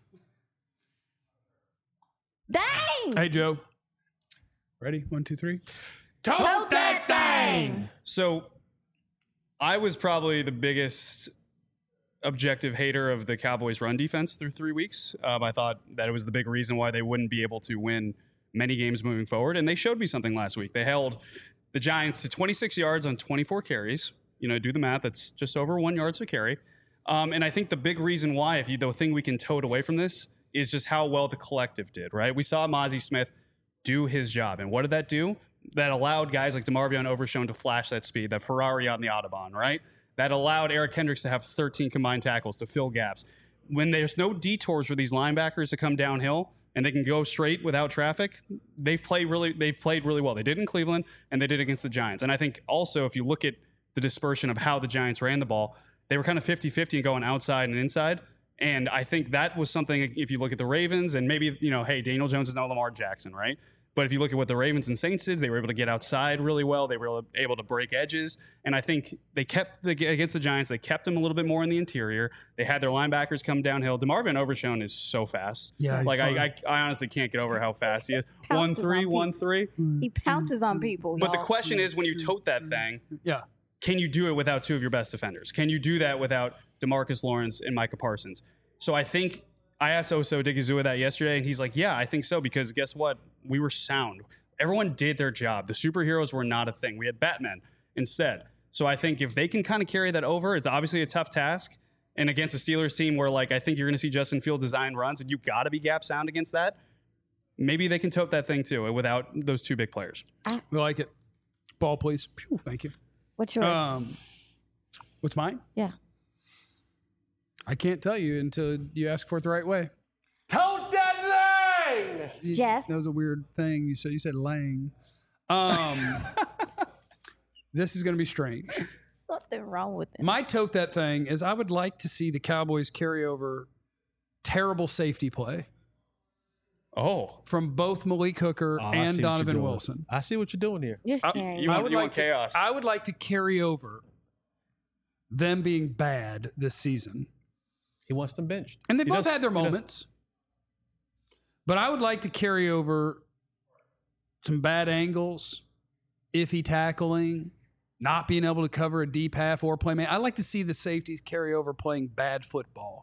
Dang! Hey, Joe. Ready? One, two, three. Tote, Tote that thing! So I was probably the biggest objective hater of the Cowboys' run defense through three weeks. Um, I thought that it was the big reason why they wouldn't be able to win many games moving forward. And they showed me something last week. They held the Giants to twenty-six yards on twenty-four carries. You know, do the math. That's just over one yards per carry. Um, and I think the big reason why, if you, the thing we can tote away from this is just how well the collective did, right? We saw Mozzie Smith do his job. And what did that do? That allowed guys like DeMarvion Overshown to flash that speed, that Ferrari on the Autobahn, right? That allowed Eric Kendricks to have thirteen combined tackles to fill gaps. When there's no detours for these linebackers to come downhill and they can go straight without traffic, they've played really they've played really well. They did in Cleveland and they did against the Giants. And I think also if you look at the dispersion of how the Giants ran the ball, they were kind of fifty-fifty and going outside and inside. And I think that was something, if you look at the Ravens and maybe, you know, hey, Daniel Jones is no Lamar Jackson, right? But if you look at what the Ravens and Saints did, they were able to get outside really well. They were able to break edges. And I think they kept, the, against the Giants, they kept them a little bit more in the interior. They had their linebackers come downhill. DeMarvin Overshown is so fast. Yeah, he's Like, fun. I, I, I honestly can't get over how fast he is. Pounces one on three, people. one three. He pounces on people. But the y'all. question is, when you tote that thing, Yeah. can you do it without two of your best defenders? Can you do that without DeMarcus Lawrence and Micah Parsons? So I think I asked Oso Digizua that yesterday, and he's like, yeah, I think so, because guess what? We were sound. Everyone did their job. The superheroes were not a thing. We had Batman instead. So I think if they can kind of carry that over, it's obviously a tough task. And against a Steelers team where, like, I think you're going to see Justin Field design runs, and you got to be gap sound against that, maybe they can tote that thing too without those two big players. We like it. Ball, please. Phew, thank you. What's yours? Um, what's mine? yeah. I can't tell you until you ask for it the right way. Tote that thing! You- Jeff? That was a weird thing you said. You said Lang. Um, this is going to be strange. Something wrong with it. My tote that thing is I would like to see the Cowboys carry over terrible safety play Oh, from both Malik Hooker Oh, I see and what you're Donovan doing. Wilson. I see what you're doing here. You're I- scaring you me. want- would you like want to- chaos. I would like to carry over them being bad this season. He wants them benched. And they He both does- had their he does. moments. But I would like to carry over some bad angles, iffy tackling, not being able to cover a deep half or play man. I like to see the safeties carry over playing bad football.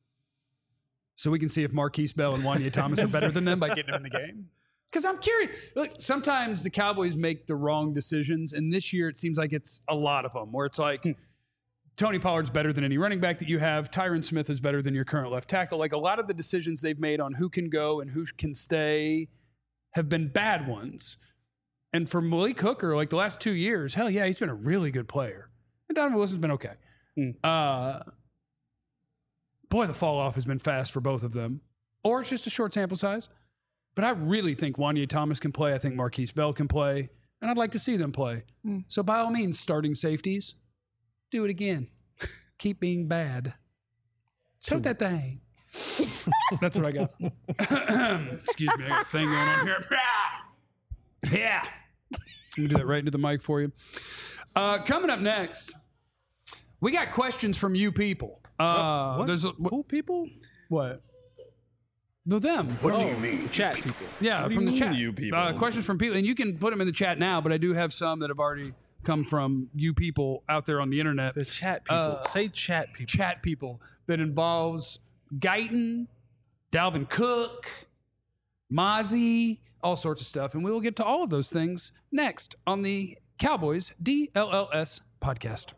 So we can see if Marquise Bell and Wanya Thomas are better than them by getting them in the game. Because I'm curious. Look, sometimes the Cowboys make the wrong decisions, and this year it seems like it's a lot of them, where it's like Tony Pollard's better than any running back that you have. Tyron Smith is better than your current left tackle. Like a lot of the decisions they've made on who can go and who can stay have been bad ones. And for Malik Hooker, like the last two years, hell yeah, he's been a really good player. And Donovan Wilson's been okay. Mm. Uh, boy, the fall off has been fast for both of them. Or it's just a short sample size. But I really think Wanye Thomas can play. I think Marquise Bell can play. And I'd like to see them play. Mm. So by all means, starting safeties, do it again. Keep being bad. Tote that thing. That's what I got. Excuse me, I got a thing going on here. Yeah. Let me do that right into the mic for you. Uh, coming up next, we got questions from you people. Uh, what? There's a, Who people? what? The them. What do you mean? Chat people. Yeah, What do from you the mean, chat. you people? Uh, questions from people, and you can put them in the chat now. But I do have some that have already come from you people out there on the internet. The chat people. Uh, Say chat people. Chat people that involves Guyton, Dalvin Cook, Mozzie, all sorts of stuff, and we will get to all of those things next on the Cowboys D L L S podcast.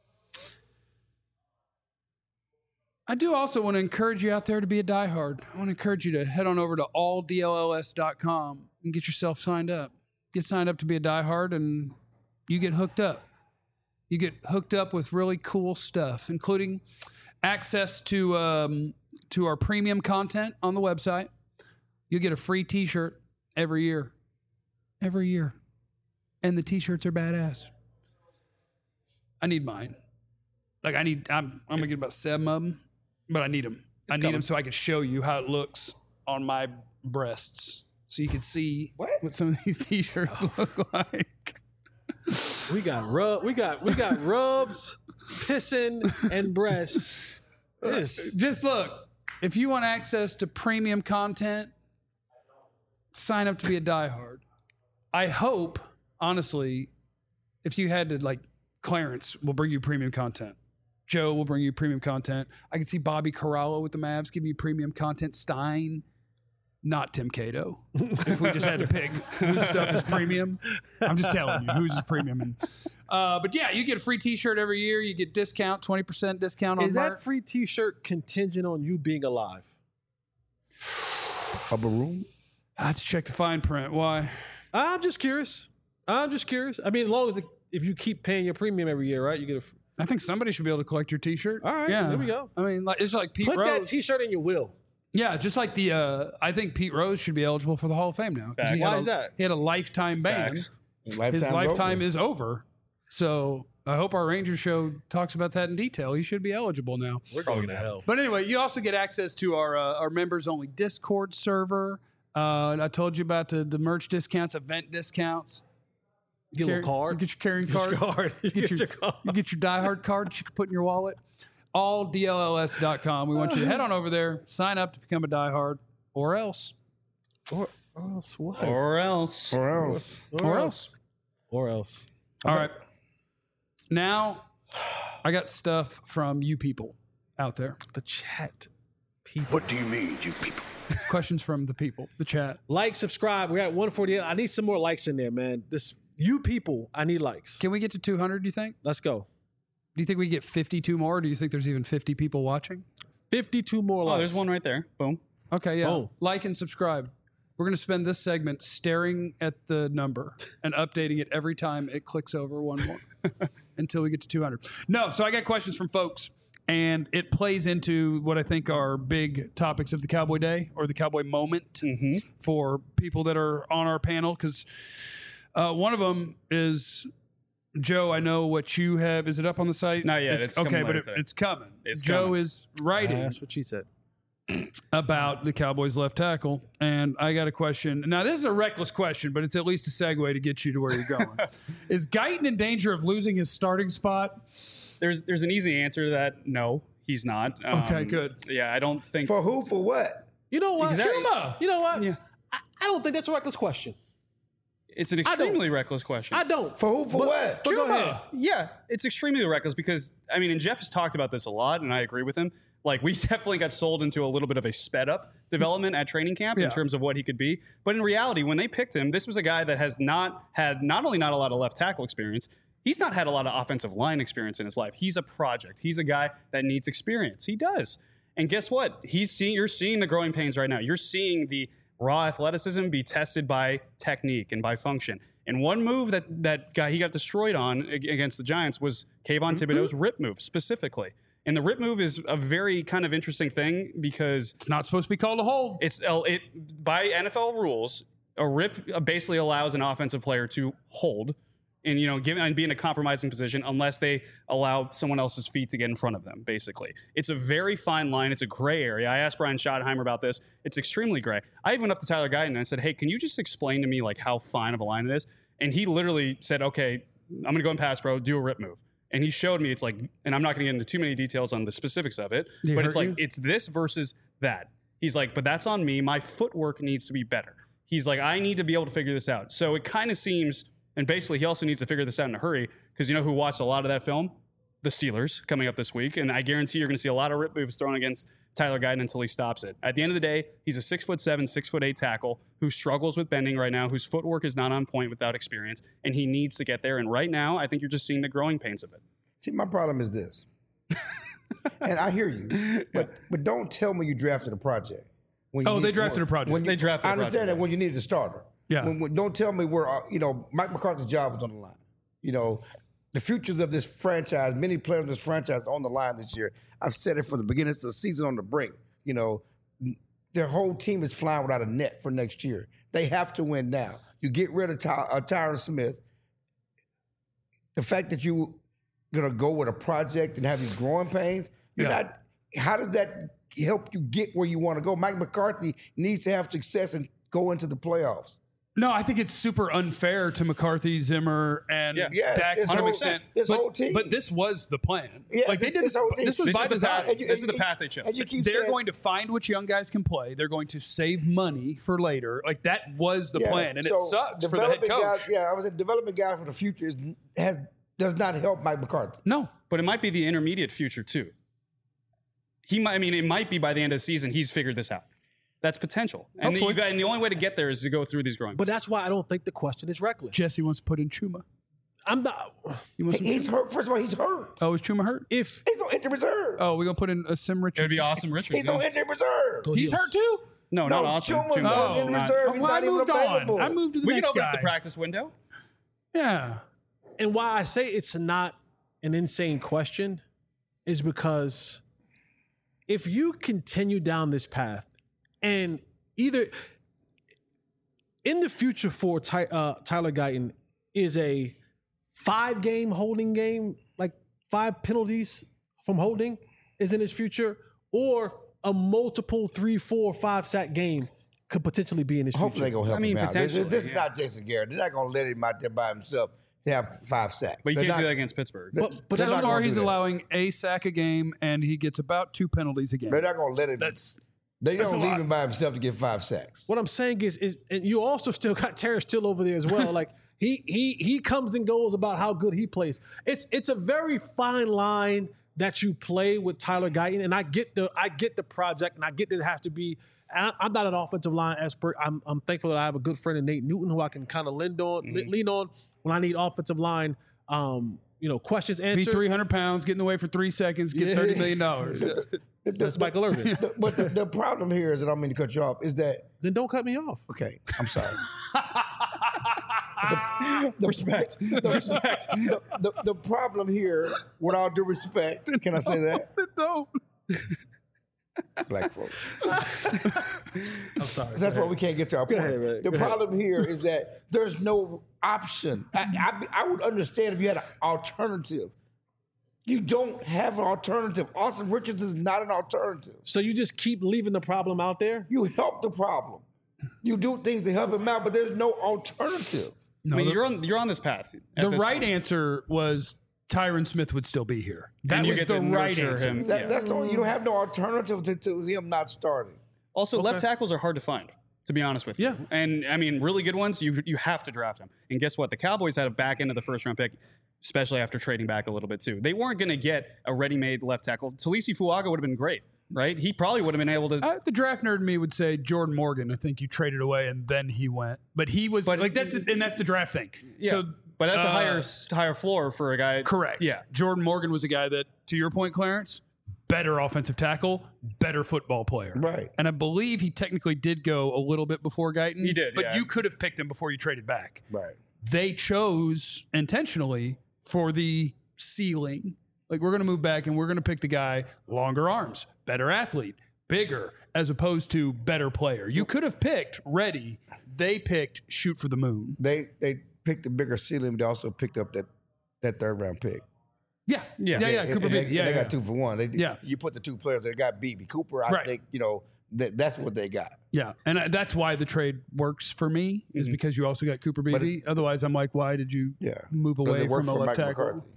I do also want to encourage you out there to be a diehard. I want to encourage you to head on over to all D L L S dot com and get yourself signed up. Get signed up to be a diehard, and you get hooked up. You get hooked up with really cool stuff, including access to um, to our premium content on the website. You'll get a free T-shirt every year. Every year. And the T-shirts are badass. I need mine. Like, I need, I'm, I'm going to get about seven of them. But I need them. I need coming. them so I can show you how it looks on my breasts, so you can see What? what some of these T-shirts look like. We got rub. We got we got rubs, pissing, and breasts. This. Just look. If you want access to premium content, sign up to be a diehard. I hope, honestly, if you had to, like, Clarence will bring you premium content. Joe will bring you premium content. I can see Bobby Corralo with the Mavs giving you premium content. Stein, not Tim Cato. If we just had to pick whose stuff is premium, I'm just telling you whose is premium. And, uh, but yeah, you get a free T-shirt every year. You get discount, twenty percent discount on Is merch. that free T-shirt contingent on you being alive? A room? I have to check the fine print. Why? I'm just curious. I'm just curious. I mean, as long as the, if you keep paying your premium every year, right? You get a. I think somebody should be able to collect your T-shirt. All right, yeah. there we go. I mean, like it's like Pete Put Rose. that T-shirt in your will. Yeah, just like the. Uh, I think Pete Rose should be eligible for the Hall of Fame now. 'Cause he Facts. had Why a- is that? He had a lifetime ban. Facts. His lifetime is over. So I hope our Ranger show talks about that in detail. He should be eligible now. We're going to hell. But anyway, you also get access to our uh, our members only Discord server. Uh, and I told you about the, the merch discounts, event discounts. Get a Carry- little card. You get your carrying Get your card. card. You get, your, card. you get your diehard card that you can put in your wallet. all D L L S dot com. We want you to head on over there, sign up to become a diehard, or else. Or, or else what? Or else. Or else. Or else. Or else. All right. Now, I got stuff from you people out there. The chat. People. What do you mean, you people? Questions from the people, the chat. Like, subscribe. We're at one forty-eight. I need some more likes in there, man. This you people, I need likes. Can we get to two hundred, do you think? Let's go. Do you think we get fifty-two more? Or do you think there's even fifty people watching? fifty-two more likes. Oh, there's one right there. Boom. Okay, yeah. Oh. Like and subscribe. We're going to spend this segment staring at the number and updating it every time it clicks over one more until we get to two hundred. No, so I got questions from folks, and it plays into what I think are big topics of the Cowboy Day or the Cowboy Moment for people that are on our panel, because uh, one of them is... Joe, I know what you have. Is it up on the site? Not yet. It's okay, coming but later it, today. it's coming. It's Joe coming. is writing That's what she said. about the Cowboys left tackle, and I got a question. Now, this is a reckless question, but it's at least a segue to get you to where you're going. Is Guyton in danger of losing his starting spot? There's there's an easy answer to that. No, he's not. Um, Okay, good. Yeah, I don't think. For who? For what? You know what? Exactly. Chuma! You know what? Yeah. I, I don't think that's a reckless question. It's an don't. extremely reckless question. I don't. For who? For what? But go ahead. Yeah, it's extremely reckless because, I mean, and Jeff has talked about this a lot, and I agree with him. Like, we definitely got sold into a little bit of a sped up development at training camp Yeah. in terms of what he could be. But in reality, when they picked him, this was a guy that has not had not only not a lot of left tackle experience, he's not had a lot of offensive line experience in his life. He's a project. He's a guy that needs experience. He does. And guess what? He's seeing, you're seeing the growing pains right now. You're seeing the raw athleticism be tested by technique and by function. And one move that that guy he got destroyed on ag- against the Giants was Kayvon Thibodeau's rip move specifically. And the rip move is a very kind of interesting thing because It's not supposed to be called a hold. it's uh, it by N F L rules, a rip basically allows an offensive player to hold and, you know, give and be in a compromising position unless they allow someone else's feet to get in front of them. Basically, it's a very fine line. It's a gray area. I asked Brian Schottenheimer about this. It's extremely gray. I even went up to Tyler Guyton and I said, "Hey, can you just explain to me like how fine of a line it is?" And he literally said, "Okay, I'm going to go in pass pro, do a rip move." And he showed me it's like, and I'm not going to get into too many details on the specifics of it, Did he but hurt it's like you? it's this versus that. He's like, but that's on me. My footwork needs to be better. He's like, I need to be able to figure this out. So it kind of seems, and basically he also needs to figure this out in a hurry because you know who watched a lot of that film? The Steelers coming up this week. And I guarantee you're going to see a lot of rip moves thrown against Tyler Guyton until he stops it. At the end of the day, he's a six foot seven, six foot eight tackle who struggles with bending right now, whose footwork is not on point without experience, and he needs to get there. And right now, I think you're just seeing the growing pains of it. See, my problem is this, and I hear you, but but don't tell me you drafted a project. When you Oh, they drafted when- a project. When you, They drafted I a understand project, that yeah. when you needed a starter. Yeah. When, when- don't tell me where uh, you know Mike McCarthy's job was on the line. You know, the futures of this franchise, many players in this franchise on the line this year. I've said it from the beginning of the season on the brink. You know, their whole team is flying without a net for next year. They have to win now. You get rid of Ty, uh, Tyron Smith. The fact that you gonna go with a project and have these growing pains, you're Yeah. not. How does that help you get where you want to go? Mike McCarthy needs to have success and go into the playoffs. No, I think it's super unfair to McCarthy, Zimmer, and Yeah. Yes, Dak his to an whole- extent. his but, whole team. but this was the plan. Yeah, like they this- did this this. whole team. This was This by is the design. path. And you- This is and the you- path they chose. And you keep They're saying, going to find which young guys can play. They're going to save money for later. Like that was the yeah, plan, and it so sucks for the head developing coach. Guys, yeah, I was a development guy for the future is has does not help Mike McCarthy. No, But it might be the intermediate future too. He might. I mean, it might be by the end of the season he's figured this out. That's potential, and the, you got, and the only way to get there is to go through these growing. But that's why I don't think the question is reckless. Jesse wants to put in Chuma. I'm not. He wants some He's Chuma. hurt. First of all, he's hurt. Oh, is Chuma hurt? If He's on injured reserve. Oh, we're gonna put in a Sim Richards. It would be awesome, Richards. he's on injured reserve. He's hurt too. No, No, not awesome. Chuma's Chuma's on Oh, injured not- reserve. He's well, I not even moved available. on. I moved to the We next can open guy. up the practice window. Yeah. and why I say it's not an insane question is because if you continue down this path and either in the future for Ty, uh, Tyler Guyton is a five game holding game, like five penalties from holding is in his future, or a multiple three, four, five sack game could potentially be in his Hopefully they're future. gonna help I mean, him out. This, potentially, this is yeah. not Jason Garrett. They're not gonna let him out there by himself to have five sacks. But you They're can't not- do that against Pittsburgh. But, but They're So not far, gonna he's do that. allowing a sack a game, and he gets about two penalties a game. They're not gonna let him. That's they that's don't a leave lot. him by himself to get five sacks. what I'm saying is, is and you also still got Terrence Till over there as well. Like he he he comes and goes about how good he plays. It's it's a very fine line that you play with Tyler Guyton, and I get the I get the project, and I get that it has to be. I, I'm not an offensive line expert. I'm I'm thankful that I have a good friend in Nate Newton who I can kind of lean on Mm-hmm. lean on when I need offensive line. Um, you know, questions be answered. three hundred pounds, get in the way for three seconds, get Yeah. thirty million dollars. The- That's the- Michael Irvin. the- but the, the problem here is, and I don't mean to cut you off, is that Then don't cut me off. okay? I'm sorry. Respect. The, Respect. The, the, the problem here, with all due respect, can I say that? Don't. Black folks. I'm sorry. That's why we can't get to our points. ahead, man. The Go ahead. problem here is that there's no option. I, I, I would understand if you had an alternative. You don't have an alternative. Austin Richards is not an alternative. So you just keep leaving the problem out there. You help the problem. You do things to help him out, but there's no alternative. I mean, you're on you're on this path. at The this right point. answer was Tyron Smith would still be here. That And you was get the to right nurture answer. him. That, Yeah. That's the only, you don't have no alternative to, to him not starting. Also, left tackles are hard to find, to be honest with you. Yeah. And I mean, really good ones, you you have to draft them. And guess what? The Cowboys had a back end of the first round pick, especially after trading back a little bit too. They weren't going to get a ready-made left tackle. Talisi Fuaga would have been great, right? He probably would have been able to. Uh, the draft nerd in me would say Jordan Morgan. I think you traded away and then he went, but he was But- like that's the, and that's the draft thing. yeah. So, but that's a uh, higher higher floor for a guy. correct. Yeah. Jordan Morgan was a guy that, to your point, Clarence, better offensive tackle, better football player. Right. And I believe he technically did go a little bit before Guyton. He did, But yeah. you could have picked him before you traded back. Right. They chose intentionally for the ceiling. Like, we're going to move back and we're going to pick the guy, longer arms, better athlete, bigger, as opposed to better player. You could have picked Reddy. They picked shoot for the moon. They they picked a bigger ceiling, but they also picked up that that third round pick. Yeah. Yeah. Yeah. yeah. And- Cooper and they, Beebe. Yeah. and they yeah. got two for one. They, Yeah. You put the two players that got B B Cooper. I Right. think you know that that's what they got. Yeah, and I- that's why the trade works for me is because you also got Cooper But Beebe. Otherwise, I'm like, why did you Yeah. move Does away it work from a for left Mike tackle? McCarthy?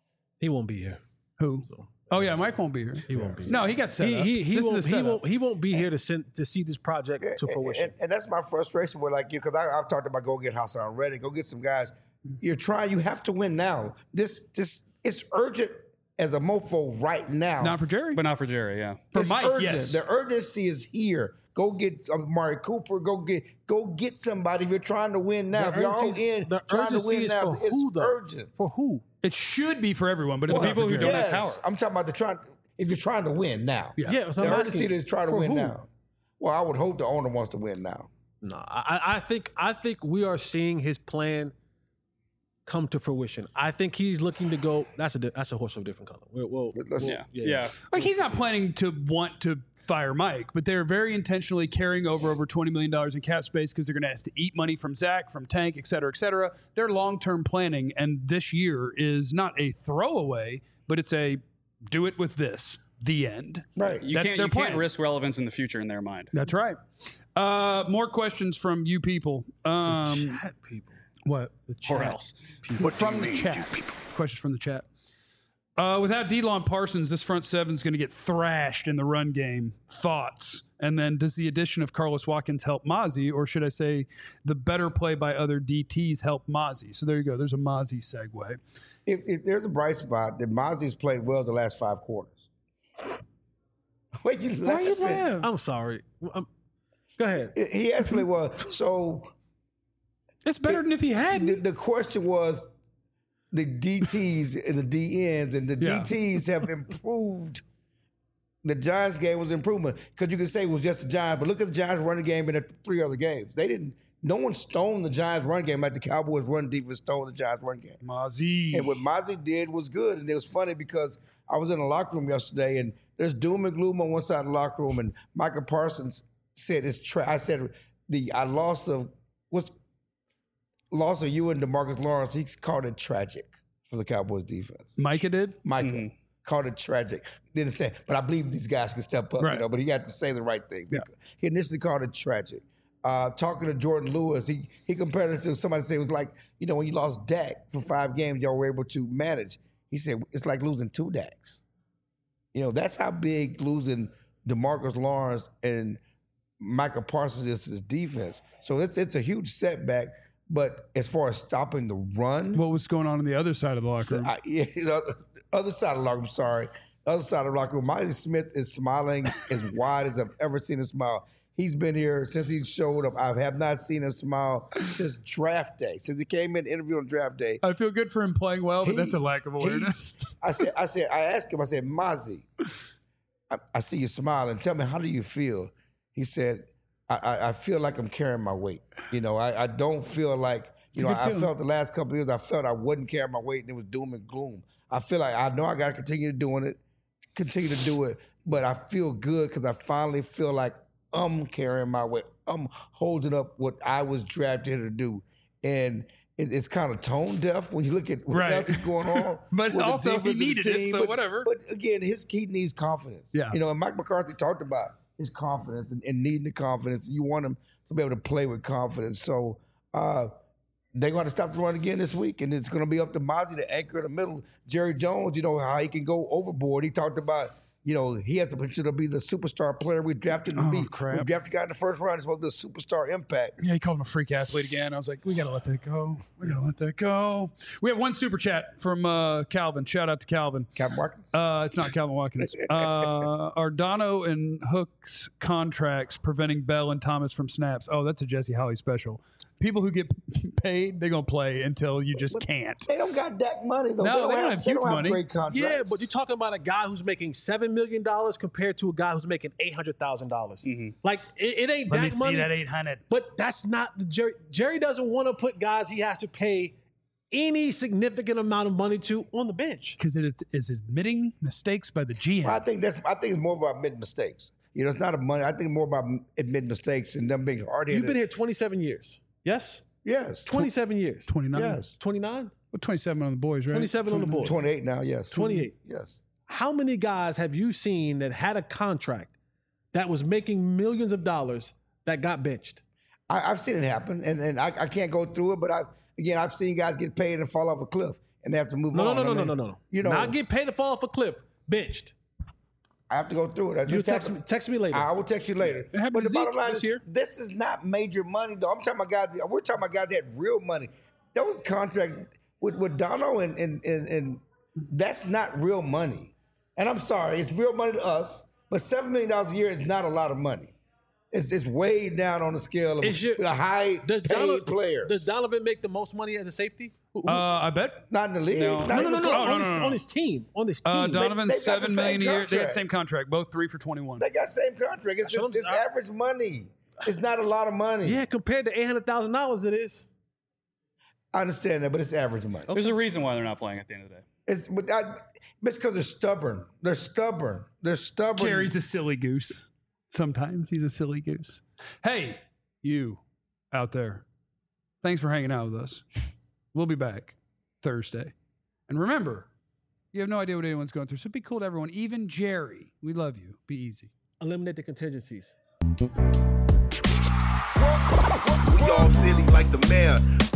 He won't be here. Who? Oh yeah, Mike won't be here. He won't be here. No, he got set He up. he he This is a won't he setup. won't he won't be here to send to see this project to And- fruition. And, and that's my frustration with like you because I've talked about go get Hassan Reddick, go get some guys. You're trying. You have to win now. This this it's urgent as a mofo right now. Not for Jerry, But not for Jerry, yeah. for It's Mike. urgent. Yes, The urgency is here. Go get Amari Cooper. Go get go get somebody if you're trying to win now. The if you're all urgency- in the trying to urgency win is now, for it's who, though? urgent. For who? it should be for everyone, but it's Well, not people for who Jerry. don't have Yes, power. I'm talking about the trying. If you're trying to win now, Yeah. Yeah, so the I'm urgency asking, is trying to for win who? now. Well, I would hope the owner wants to win now. No, I, I think I think we are seeing his plan come to fruition. I think he's looking to go. That's a di- that's a horse of a different color. We'll, we'll, Let's- we'll- Yeah. Yeah. Like, he's not planning to want to fire Mike, but they're very intentionally carrying over over twenty million dollars in cap space because they're going to have to eat money from Zach, from Tank, et cetera, et cetera. They're long-term planning, and this year is not a throwaway, but it's a do it with this, the end. Right. You That's can't their you can't plan. risk relevance in the future in their mind. That's right. Uh, more questions from you people. Um, chat people. what? The chat Or else. From the chat. Questions from the chat. Uh, without Delon Parsons, this front seven is going to get thrashed in the run game. Thoughts? And then does the addition of Carlos Watkins help Mozzie, or should I say the better play by other D Ts help Mozzie? So there you go. There's a Mozzie segue. If, if there's a bright spot, that Mozzie's played well the last five quarters. Wait, you Why are you laughing? laughing? I'm sorry. Um go ahead. He has played well. So It's better than if he the, hadn't. the question was the D Ts and the D Ns, and the Yeah. D Ts have improved. The Giants game was improvement because you could say it was just the Giants, but look at the Giants running game in the three other games. They didn't. No one stoned the Giants run game like the Cowboys run defense stoned the Giants run game. Mozzie. And what Mozzie did was good. And it was funny because I was in the locker room yesterday and there's doom and gloom on one side of the locker room. And Michael Parsons said it's tra- I said the I loss of what's loss of you and DeMarcus Lawrence, he called it tragic for the Cowboys defense. Micah did? Michael called it tragic. Didn't say, but I believe these guys can step up, Right. you know, but he had to say the right thing. Yeah. He initially called it tragic. Uh, talking to Jordan Lewis, he he compared it to somebody said it was like, you know, when you lost Dak for five games, y'all were able to manage. He said it's like losing two Daks. You know, that's how big losing DeMarcus Lawrence and Michael Parsons is to the defense. So it's it's a huge setback. But as far as stopping the run, What was going on on the other side of the locker room? I, yeah, the other side of the locker room, sorry. Other side of the locker room, Miley Smith is smiling as wide as I've ever seen him smile. He's been here since he showed up. I have not seen him smile since draft day. Since he came in, interviewed on draft day. I feel good for him playing well, but He- that's a lack of awareness. he's- I said, I said, I asked him, I said, Mozzie, I, I see you smiling. Tell me, how do you feel? He said, I, I, I feel like I'm carrying my weight. You know, I, I don't feel like, you know, a good I feeling. felt the last couple of years, I felt I wasn't carrying my weight and it was doom and gloom. I feel like I know I got to continue doing it, continue to do it, but I feel good because I finally feel like I'm carrying my weight. I'm holding up what I was drafted to do. And it, it's kind of tone deaf when you look at what Right. else is going on. But with the also he defense of the needed it, team. so But- whatever. But again, his he needs confidence. Yeah. You know, and Mike McCarthy talked about his confidence and, and needing the confidence. You want him to be able to play with confidence. So uh, they're going to stop the run again this week, and it's going to be up to Mozzie to anchor in the middle. Jerry Jones, you know, how he can go overboard. He talked about, you know, he has the potential to be the superstar player we drafted him to Oh, be. crap. We drafted a guy in the first round. He's supposed to be a superstar impact. Yeah, he called him a freak athlete again. I was like, we got to let that go. We got to let that go. We have one super chat from uh, Calvin. Shout out to Calvin. Cap Watkins. Uh, it's not Calvin Watkins. Uh, are Dono and Hook's contracts preventing Bell and Thomas from snaps? Oh, that's a Jesse Holly special. people who get paid, they're gonna play until you just But can't. They don't got Dak money though. No, they don't, have, huge they don't money. have great contracts. Yeah, but you're talking about a guy who's making seven million dollars compared to a guy who's making eight hundred thousand dollars. Like it, it ain't Let me Dak see money. that eight hundred. But that's not the Jerry. Jerry doesn't want to put guys he has to pay any significant amount of money to on the bench. Because it is admitting mistakes by the G M. Well, I think that's. I think it's more about admitting mistakes. You know, it's not a money. I think more about admitting mistakes and them being hard headed. You've been here twenty-seven years. Yes? Yes. twenty-seven years. twenty-nine. Yes. twenty-nine? Well, twenty-seven on the boys, right? twenty-seven on the boys. twenty-eight now. Yes. twenty-eight. Yes. How many guys have you seen that had a contract that was making millions of dollars that got benched? I, I've seen it happen, and, and I, I can't go through it, but I again I've seen guys get paid and fall off a cliff, and they have to move No, on. no, no, I no, mean, no, no, no. You know, Not get paid to fall off a cliff. Benched. I have to go through it. I You just text have me, to- text me later. I will text you later. It happened But to the bottom Zeke line this is, year. this is not major money, though. I'm talking about guys. We're talking about guys that had real money. Those contracts with with Dono and and and, and that's not real money. And I'm sorry, it's real money to us, but seven million dollars a year is not a lot of money. It's it's way down on the scale of Is your- a high Does paid Donovan, player. does Donovan make the most money as a safety? Who- who- Uh, I bet. Not in the league. No. Not no, no, even no, no, close. no, on, no, his, no. on his team. On his team. Uh, they Donovan's got the seven million a same year. They had contract. same contract, both three for twenty-one. They got same contract. It's So just it's I'm- average money. It's not a lot of money. yeah, compared to eight hundred thousand dollars it is. I understand that, but it's average money. There's a reason why they're not playing at the end of the day. It's but I, it's because they're stubborn. They're stubborn. They're stubborn. Jerry's a silly goose. Sometimes he's a silly goose. Hey, you out there. Thanks for hanging out with us. We'll be back Thursday. And remember, you have no idea what anyone's going through. So be cool to everyone, even Jerry. We love you. Be easy. Eliminate the contingencies. We all silly like the mayor.